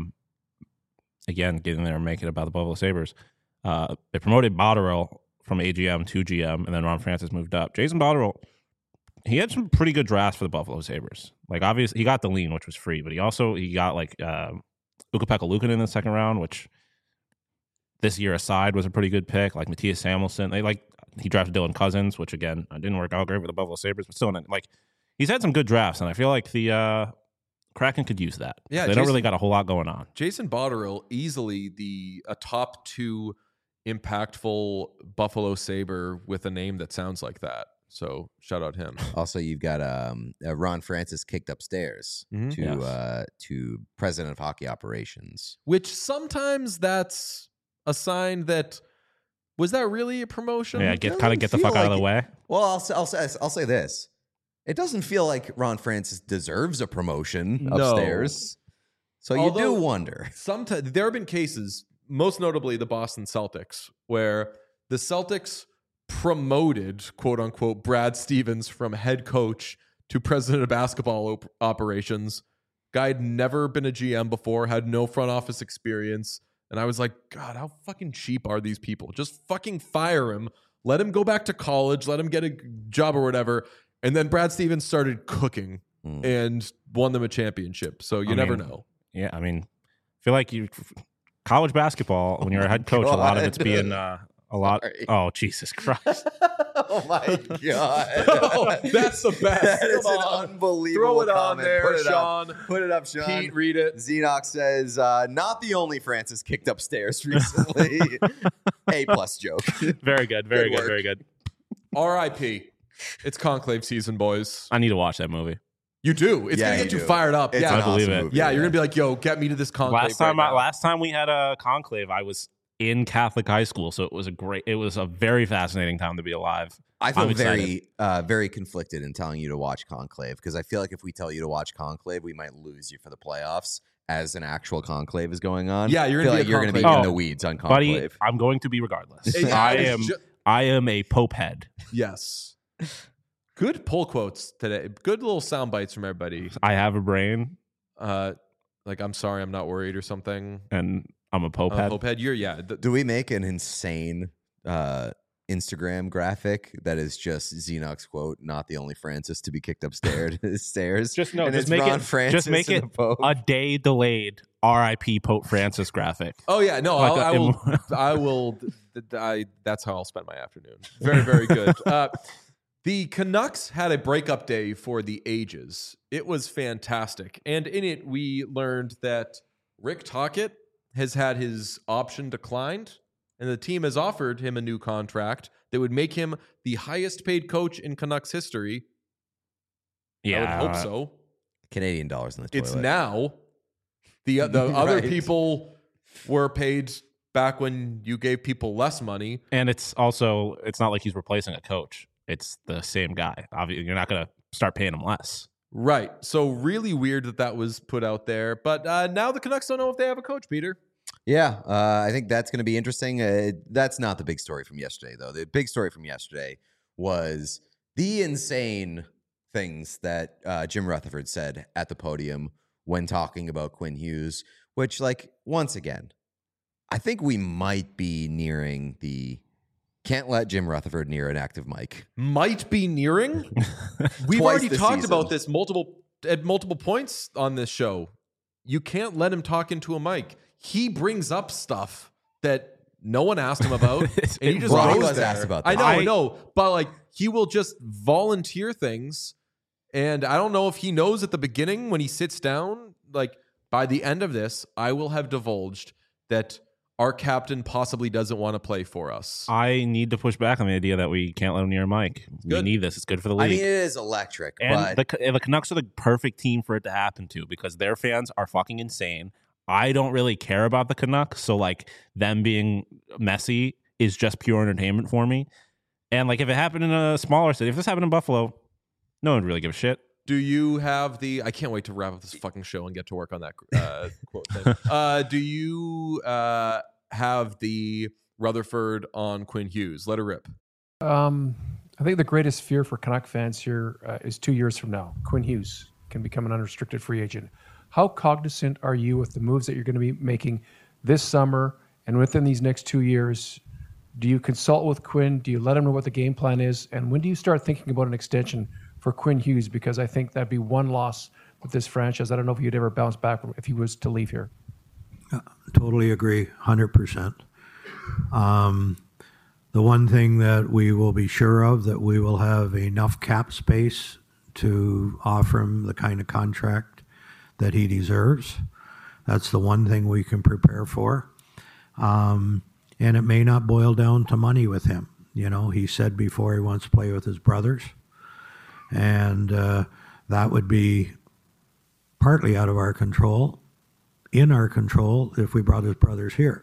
again, getting there and making it about the Buffalo Sabres, they promoted Botterill from AGM to GM, and then Ron Francis moved up. Jason Botterill, he had some pretty good drafts for the Buffalo Sabres. Like, obviously, he got the lean, which was free, but he got like Ukko-Pekka Luukkonen in the second round, which this year aside was a pretty good pick. Like Matthias Samuelsson, he drafted Dylan Cousins, which again didn't work out great with the Buffalo Sabres, but still, like he's had some good drafts, and I feel like the Kraken could use that. Yeah, they don't really got a whole lot going on. Jason Botterill, easily a top 2 impactful Buffalo Sabre with a name that sounds like that. So shout out him. Also, you've got Ron Francis kicked upstairs to president of hockey operations. Which sometimes that's a sign that was that really a promotion? Yeah, get the fuck out of the way. Well, I'll say this: it doesn't feel like Ron Francis deserves a promotion upstairs. So you do wonder. Sometimes there have been cases, most notably the Boston Celtics, where the Celtics promoted, quote unquote, Brad Stevens from head coach to president of basketball operations. Guy had never been a GM before, had no front office experience. And I was like, God, how fucking cheap are these people? Just fucking fire him. Let him go back to college. Let him get a job or whatever. And then Brad Stevens started cooking and won them a championship. So you never know. Yeah, I mean, I feel like college basketball, when you're a head coach, a lot of it's being a lot. Oh, Jesus Christ. Oh, my God. Oh, that's the best. That is an unbelievable Throw it on comment. there, Sean. Put it up, Sean. Pete, read it. Xenox says, not the only Francis kicked upstairs recently. A+ joke. Very good. Very good. work. Very good. R.I.P. It's Conclave season, boys. I need to watch that movie. You do. It's going to get you fired up. It's yeah, an I believe awesome it. movie, yeah, you're going to be like, yo, get me to this Conclave. Last time we had a Conclave, I was in Catholic high school, so it was a very fascinating time to be alive. I feel very conflicted in telling you to watch Conclave because I feel like if we tell you to watch Conclave, we might lose you for the playoffs as an actual Conclave is going on. Yeah, you're going to be in the weeds on Conclave. Buddy, I'm going to be regardless. Yeah, I am a Pope head. Yes. Good pull quotes today. Good little sound bites from everybody. I have a brain. Like, I'm sorry, I'm not worried or something. And I'm a Pope head. Pope head, Do we make an insane Instagram graphic that is just Xenox quote, not the only Francis to be kicked upstairs? Just make it a day delayed RIP Pope Francis graphic. Oh yeah, no, I will. That's how I'll spend my afternoon. Very, very good. The Canucks had a breakup day for the ages. It was fantastic, and in it we learned that Rick Tocchet has had his option declined, and the team has offered him a new contract that would make him the highest paid coach in Canucks history. Yeah, I would hope so. Canadian dollars in the toilet. It's now. The other people were paid back when you gave people less money. And it's not like he's replacing a coach. It's the same guy. Obviously, you're not going to start paying him less. Right. So really weird that was put out there. But now the Canucks don't know if they have a coach, Peter. Yeah, I think that's going to be interesting. That's not the big story from yesterday, though. The big story from yesterday was the insane things that Jim Rutherford said at the podium when talking about Quinn Hughes, which, like, once again, I think we might be nearing the can't let Jim Rutherford near an active mic. Might be nearing? We've already talked about this at multiple points on this show. You can't let him talk into a mic. He brings up stuff that no one asked him about, and he just goes there. Asked about that. that. I know, but like he will just volunteer things, and I don't know if he knows at the beginning when he sits down. Like by the end of this, I will have divulged that our captain possibly doesn't want to play for us. I need to push back on the idea that we can't let him near a mic. We need this. It's good for the league. I mean, it is electric. And but the Canucks are the perfect team for it to happen to because their fans are fucking insane. I don't really care about the Canucks, so like them being messy is just pure entertainment for me. And like if it happened in a smaller city, if this happened in Buffalo, no one would really give a shit. Do you have I can't wait to wrap up this fucking show and get to work on that quote thing. Do you have the Rutherford on Quinn Hughes? Let her rip. I think the greatest fear for Canuck fans here is 2 years from now. Quinn Hughes can become an unrestricted free agent. How cognizant are you with the moves that you're going to be making this summer and within these next 2 years? Do you consult with Quinn? Do you let him know what the game plan is? And when do you start thinking about an extension for Quinn Hughes? Because I think that'd be one loss with this franchise. I don't know if you'd ever bounce back if he was to leave here. Totally agree, 100%. The one thing that we will be sure of, that we will have enough cap space to offer him the kind of contract that he deserves. That's the one thing we can prepare for. And it may not boil down to money with him. You know, he said before he wants to play with his brothers. And that would be partly out of our control, in our control, if we brought his brothers here.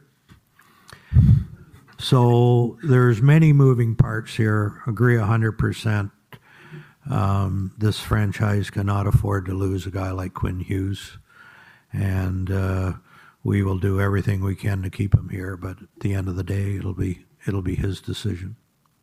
So there's many moving parts here. Agree 100%. This franchise cannot afford to lose a guy like Quinn Hughes. And we will do everything we can to keep him here. But at the end of the day, it'll be his decision.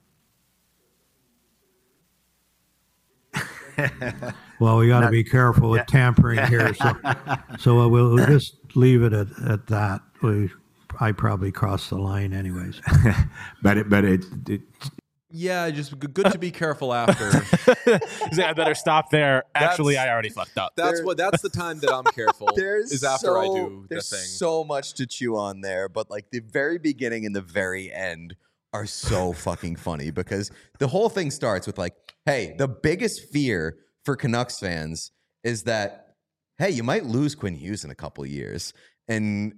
Well, we got to be careful with tampering here. So we'll just leave it at that. I probably crossed the line anyways. but it Yeah, just good to be careful after. I better stop there. Actually, I already fucked up. That's the time that I'm careful. Is after I do the thing. There's so much to chew on there, but like the very beginning and the very end are so fucking funny because the whole thing starts with like, hey, the biggest fear for Canucks fans is that, hey, you might lose Quinn Hughes in a couple of years. And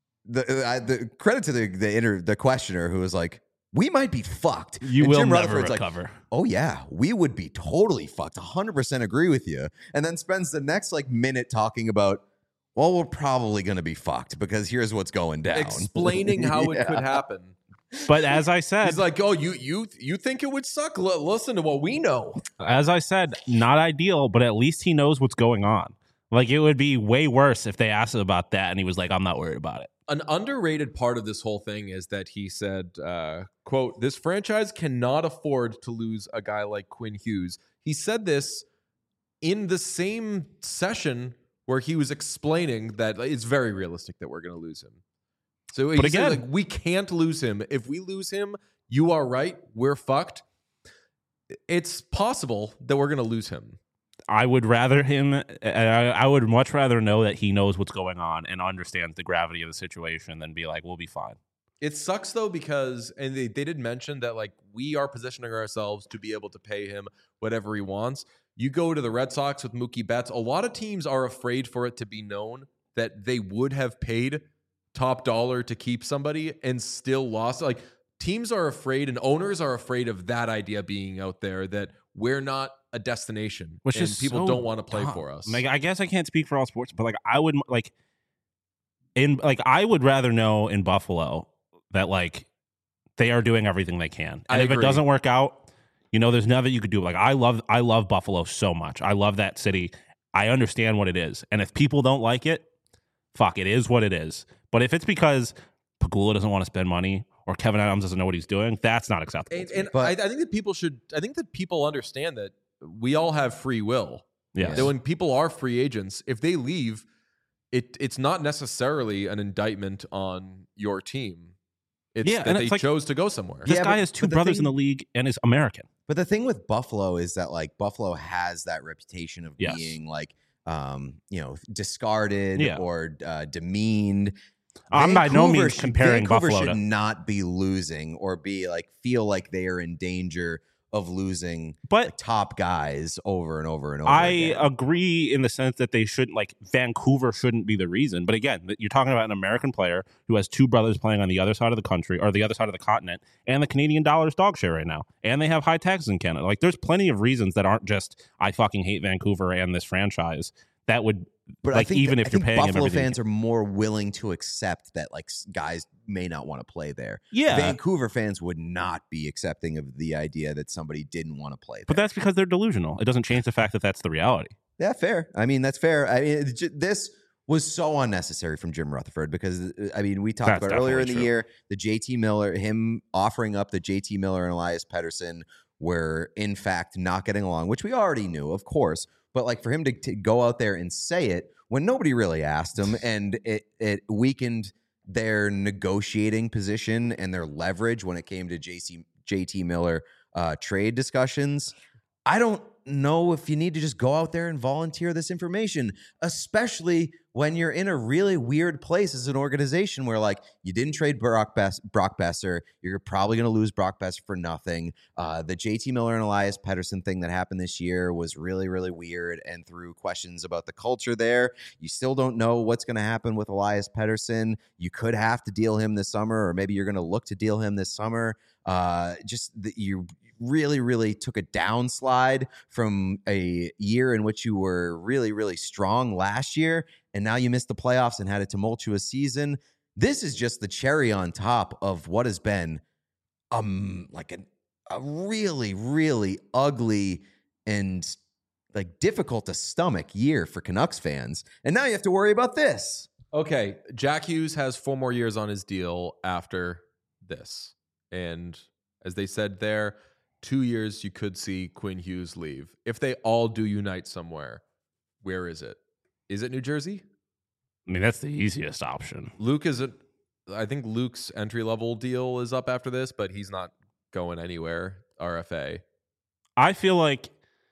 the credit to the questioner who was like, we might be fucked. You and will Jim never Rutherford's recover. Like, oh yeah, we would be totally fucked. 100% agree with you. And then spends the next like minute talking about, well, we're probably going to be fucked because here's what's going down. Explaining how it could happen. But as I said, he's like, oh, you think it would suck? Listen to what we know. As I said, not ideal, but at least he knows what's going on. Like, it would be way worse if they asked him about that and he was like, I'm not worried about it. An underrated part of this whole thing is that he said, quote, this franchise cannot afford to lose a guy like Quinn Hughes. He said this in the same session where he was explaining that it's very realistic that we're going to lose him. So he said, like, we can't lose him. If we lose him, you are right. We're fucked. It's possible that we're going to lose him. I would rather him. I would much rather know that he knows what's going on and understands the gravity of the situation than be like, we'll be fine. It sucks though because, and they did mention that like we are positioning ourselves to be able to pay him whatever he wants. You go to the Red Sox with Mookie Betts. A lot of teams are afraid for it to be known that they would have paid top dollar to keep somebody and still lost. Like teams are afraid and owners are afraid of that idea being out there that we're not a destination, which and is people so don't want to play dumb. for us. Like, I guess I can't speak for all sports, but like I would I would rather know in Buffalo that like they are doing everything they can, and if it doesn't work out, you know, there's nothing you could do. Like I love Buffalo so much. I love that city. I understand what it is, and if people don't like it, fuck, it is what it is. But if it's because Pegula doesn't want to spend money or Kevin Adams doesn't know what he's doing, that's not acceptable. And I think that people should. I think that people understand that we all have free will. Yeah. That when people are free agents, if they leave, it's not necessarily an indictment on your team. It's that they chose to go somewhere. This guy has two brothers in the league and is American. But the thing with Buffalo is that like Buffalo has that reputation of being like, discarded or demeaned. I'm by no means comparing Vancouver Buffalo should to not be losing or be like feel like they are in danger of losing top guys over and over and over again. I agree in the sense that they shouldn't, like, Vancouver shouldn't be the reason. But again, you're talking about an American player who has two brothers playing on the other side of the country or the other side of the continent, and the Canadian dollar's dog share right now. And they have high taxes in Canada. Like, there's plenty of reasons that aren't just, I fucking hate Vancouver and this franchise. That would, but like, even if you're paying Buffalo fans are more willing to accept that like guys may not want to play there. Yeah, Vancouver fans would not be accepting of the idea that somebody didn't want to play there. But that's because they're delusional. It doesn't change the fact that that's the reality. Yeah, fair. I mean, that's fair. I mean, this was so unnecessary from Jim Rutherford because I mean, we talked about earlier in the year the JT Miller, him offering up the JT Miller and Elias Pettersson were in fact not getting along, which we already knew, of course. But like for him to go out there and say it when nobody really asked him, and it weakened their negotiating position and their leverage when it came to JT Miller trade discussions. I don't know if you need to just go out there and volunteer this information, especially when you're in a really weird place as an organization where, like, you didn't trade Brock Besser. You're probably going to lose Brock Besser for nothing. The JT Miller and Elias Pettersson thing that happened this year was really, really weird and threw questions about the culture there. You still don't know what's going to happen with Elias Pettersson. You could have to deal him this summer, or maybe you're going to look to deal him this summer. You really, really took a downslide from a year in which you were really, really strong last year, and now you missed the playoffs and had a tumultuous season. This is just the cherry on top of what has been like a really, really ugly and like difficult to stomach year for Canucks fans. And now you have to worry about this. Okay, Jack Hughes has 4 more years on his deal after this. And as they said there, 2 years you could see Quinn Hughes leave. If they all do unite somewhere, where is it? Is it New Jersey? I mean, that's the easiest option. I think Luke's entry-level deal is up after this, but he's not going anywhere, RFA. I feel like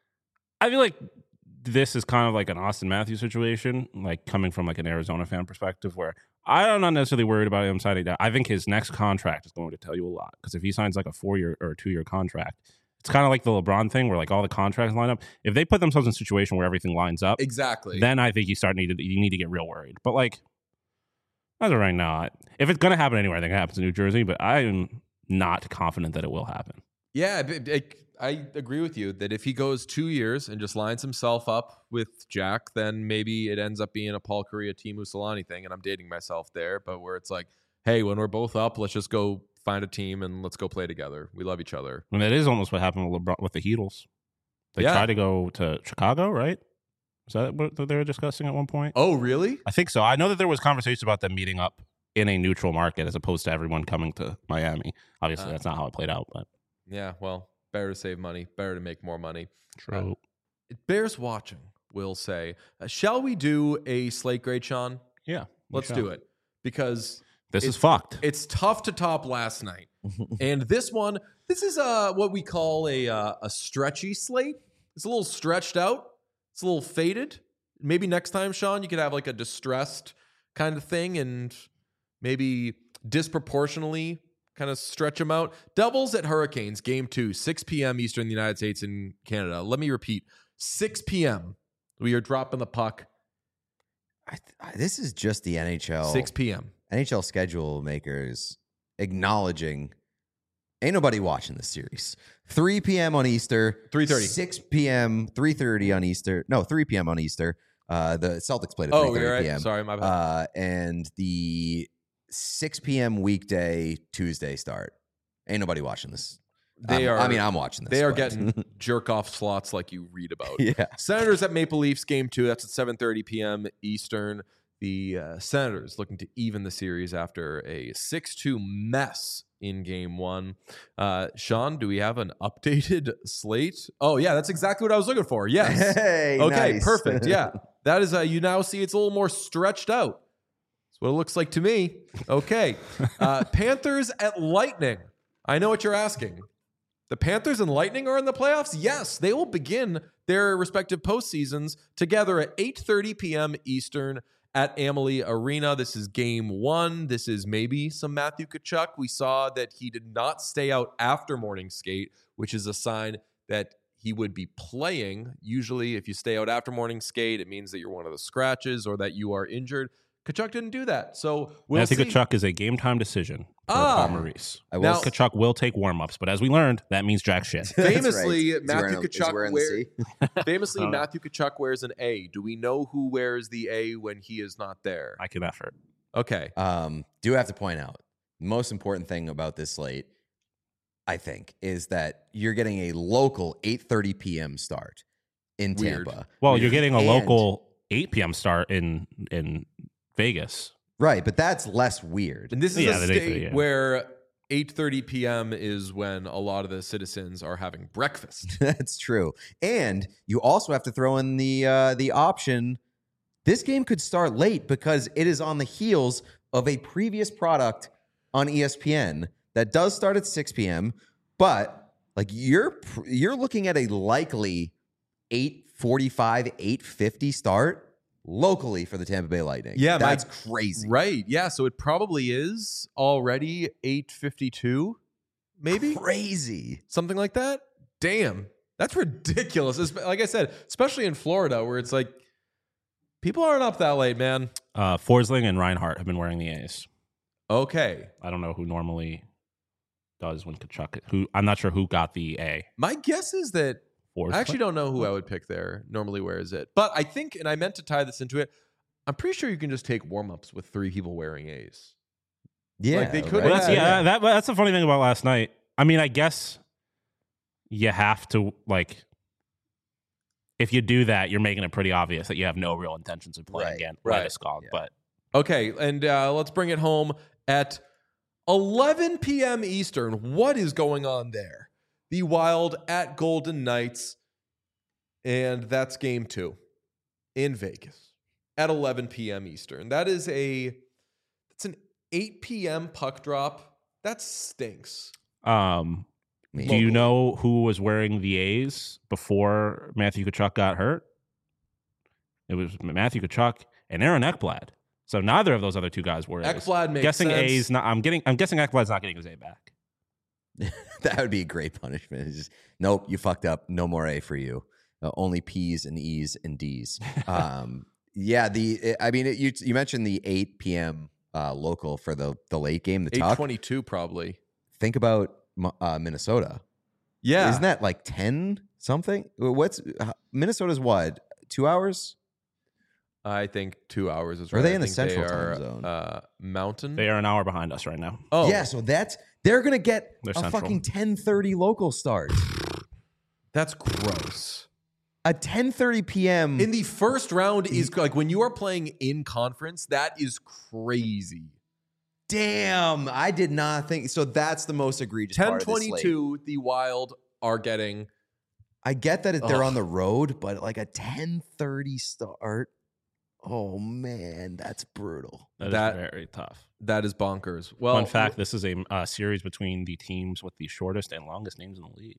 this is kind of like an Austin Matthews situation, like coming from like an Arizona fan perspective, where I'm not necessarily worried about him signing that. I think his next contract is going to tell you a lot, because if he signs like a 4-year or a 2-year contract, it's kind of like the LeBron thing where like all the contracts line up. If they put themselves in a situation where everything lines up, exactly, then I think you need to get real worried. But like as of right now, if it's going to happen anywhere, I think it happens in New Jersey, but I am not confident that it will happen. Yeah, I agree with you that if he goes 2 years and just lines himself up with Jack, then maybe it ends up being a Paul Kariya, Teemu Selanne thing, and I'm dating myself there, but where it's like, hey, when we're both up, let's just go find a team and let's go play together. We love each other. And that is almost what happened with LeBron with the Heatles. They tried to go to Chicago, right? Is that what they were discussing at one point? Oh, really? I think so. I know that there was conversations about them meeting up in a neutral market as opposed to everyone coming to Miami. Obviously, that's not how it played out, but yeah, well, better to save money, better to make more money. True. It bears watching, we'll say. Shall we do a slate grade, Sean? Yeah. Let's do it, because this is fucked. It's tough to top last night. And this is what we call a stretchy slate. It's a little stretched out. It's a little faded. Maybe next time, Sean, you could have like a distressed kind of thing and maybe disproportionately kind of stretch them out. Devils at Hurricanes, Game 2, 6 p.m. Eastern in the United States and Canada. Let me repeat, 6 p.m. We are dropping the puck. This is just the NHL. 6 p.m. NHL schedule makers acknowledging ain't nobody watching this series. 3 p.m. on Easter. 3:30. 6 p.m. 3:30 on Easter. No, 3 p.m. on Easter. The Celtics played at 3:30 p.m. Sorry, my bad. And the 6 p.m. weekday Tuesday start. Ain't nobody watching this. I'm watching this. They are getting jerk off slots like you read about. Yeah. Senators at Maple Leafs, Game 2. That's at 7:30 p.m. Eastern. The Senators looking to even the series after a 6-2 mess in Game 1. Sean, do we have an updated slate? Oh, yeah, that's exactly what I was looking for. Yes. Hey, okay, nice. Perfect. Yeah. That is, you now see it's a little more stretched out. That's what it looks like to me. Okay. Panthers at Lightning. I know what you're asking. The Panthers and Lightning are in the playoffs? Yes, they will begin their respective postseasons together at 8:30 p.m. Eastern at Amalie Arena. This is Game 1. This is maybe some Matthew Tkachuk. We saw that he did not stay out after morning skate, which is a sign that he would be playing. Usually, if you stay out after morning skate, it means that you're one of the scratches or that you are injured. Tkachuk didn't do that. So we'll see. Tkachuk is a game time decision for Paul Maurice. Now, Tkachuk will take warm-ups, but as we learned, that means jack shit. Famously, right. Matthew Tkachuk Matthew Tkachuk wears an A. Do we know who wears the A when he is not there? I can effort. Okay. Do have to point out, the most important thing about this slate, I think, is that you're getting a local 8:30 p.m. start in Tampa. Well, you're getting a local 8 p.m. start in Vegas. Right, but that's less weird. And this is a state where 8:30 p.m. is when a lot of the citizens are having breakfast. That's true. And you also have to throw in the option, this game could start late because it is on the heels of a previous product on ESPN that does start at 6 p.m., but like you're looking at a likely 8:45, 8:50 start. locally for the Tampa Bay Lightning. Yeah, that's crazy. Right. Yeah. So it probably is already 8:52, maybe Crazy. something like that. Damn, that's ridiculous. Like I said, especially in Florida, where it's like people aren't up that late, man. Forsling and Reinhart have been wearing the A's. Okay. I don't know who normally does when Kachuk. I'm not sure who got the A. My guess is that Forsling? I actually don't know who I would pick there. Normally wears it, but I think, and I meant to tie this into it. I'm pretty sure you can just take warm-ups with 3 people wearing A's. Yeah, Like, they could Well, have- that's the funny thing about last night. I mean, I guess you have to, like, if you do that, you're making it pretty obvious that you have no real intentions of playing again. Right. Landeskog, Yeah. but Okay, and let's bring it home at 11 p.m. Eastern. What is going on there? The Wild at Golden Knights, and that's game 2 in Vegas at 11 p.m. Eastern. That's an 8 p.m. puck drop. That stinks. do you know who was wearing the A's before Matthew Tkachuk got hurt? It was Matthew Tkachuk and Aaron Ekblad. So neither of those other 2 guys were A's. Ekblad makes guessing sense. A's. Not, I'm guessing Ekblad's not getting his A back. That would be a great punishment. It's just, nope, you fucked up. No more A for you. Only P's and E's and D's. Yeah, you mentioned the 8 p.m. Local for the late game, the Tuck. 8:22 probably. Think about Minnesota. Yeah. Isn't that like 10 something? Minnesota's what? 2 hours? I think 2 hours is Are right. they I in the think central they are, time zone? Mountain. They are an hour behind us right now. Oh, Yeah, so they're gonna get They're a central. fucking 10:30 local start. that's gross. A 10:30 p.m. In the first round is like when you are playing in conference, that is crazy. Damn, I did not think so. That's the most egregious part of this slate. 10:22, the Wild are getting. I get that they're Ugh. on the road, but like a 10:30 start. Oh man, that's brutal. That is very tough. That is bonkers. Well, Fun fact: this is a series between the teams with the shortest and longest names in the league.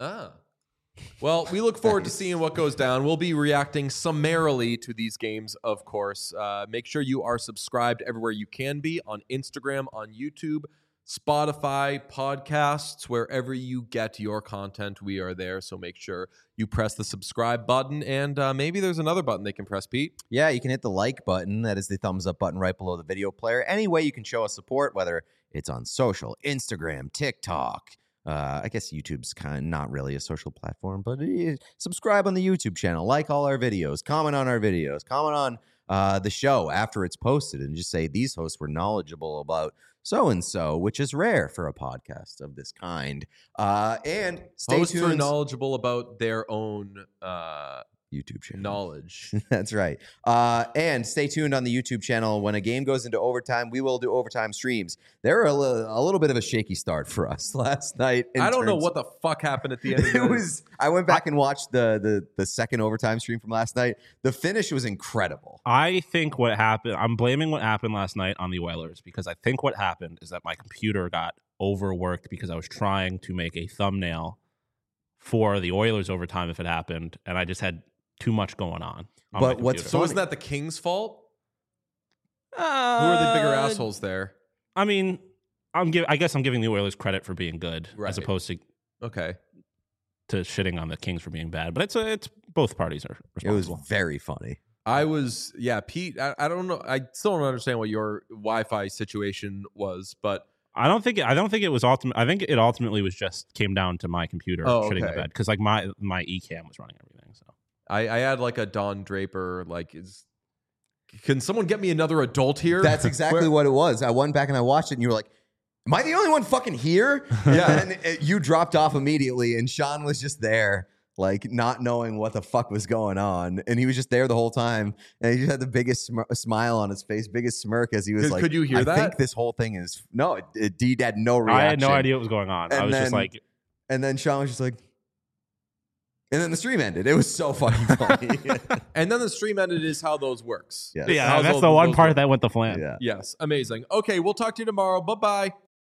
Well, we look forward to seeing what goes down. We'll be reacting summarily to these games, of course. Make sure you are subscribed everywhere you can be, on Instagram, on YouTube, Spotify, podcasts, wherever you get your content. We are there, so make sure you press the subscribe button, and maybe there's another button they can press, Pete. Yeah, you can hit the like button. That is the thumbs up button right below the video player. Any way you can show us support, whether it's on social, Instagram, TikTok. I guess YouTube's kind of not really a social platform, but subscribe on the YouTube channel, like all our videos, comment on our videos, comment on the show after it's posted, and just say these hosts were knowledgeable about so-and-so, which is rare for a podcast of this kind. And stay Hosts are tuned. knowledgeable about their own YouTube channel. knowledge. That's right. And stay tuned on the YouTube channel. When a game goes into overtime, we will do overtime streams. There were a little bit of a shaky start for us last night. I don't know what the fuck happened at the end of it was. I went back and watched the second overtime stream from last night. The finish was incredible. I think what happened, I'm blaming what happened last night on the Oilers, because I think what happened is that my computer got overworked because I was trying to make a thumbnail for the Oilers overtime if it happened, and I just had too much going on But my what's computer. So isn't that the Kings' fault? Who are the bigger assholes there? I mean, I guess I'm giving the Oilers credit for being good Right. as opposed to Okay. shitting on the Kings for being bad. But it's both parties are It was responsible. very funny. Pete, I don't know. I still don't understand what your Wi-Fi situation was, but I don't think it was ultimate. I think it ultimately was just came down to my computer shitting the okay. bed because like my eCam was running everything. So I had like a Don Draper, can someone get me another adult here? That's exactly what it was. I went back and I watched it, and you were like, "Am I the only one fucking here?" Yeah. And you dropped off immediately, and Sean was just there, like not knowing what the fuck was going on, and he was just there the whole time, and he just had the biggest smile on his face, biggest smirk as he was like, Could you hear I that? think this whole thing is no. Deed had no reaction. I had no idea what was going on. And I was just then- like, And then Sean was just like, and then the stream ended. It was so fucking funny. And then the stream ended is how those works. Yes. yeah, How that's those- the one those part work. that went the flan. Yeah. Yes, amazing. Okay, we'll talk to you tomorrow. Bye-bye.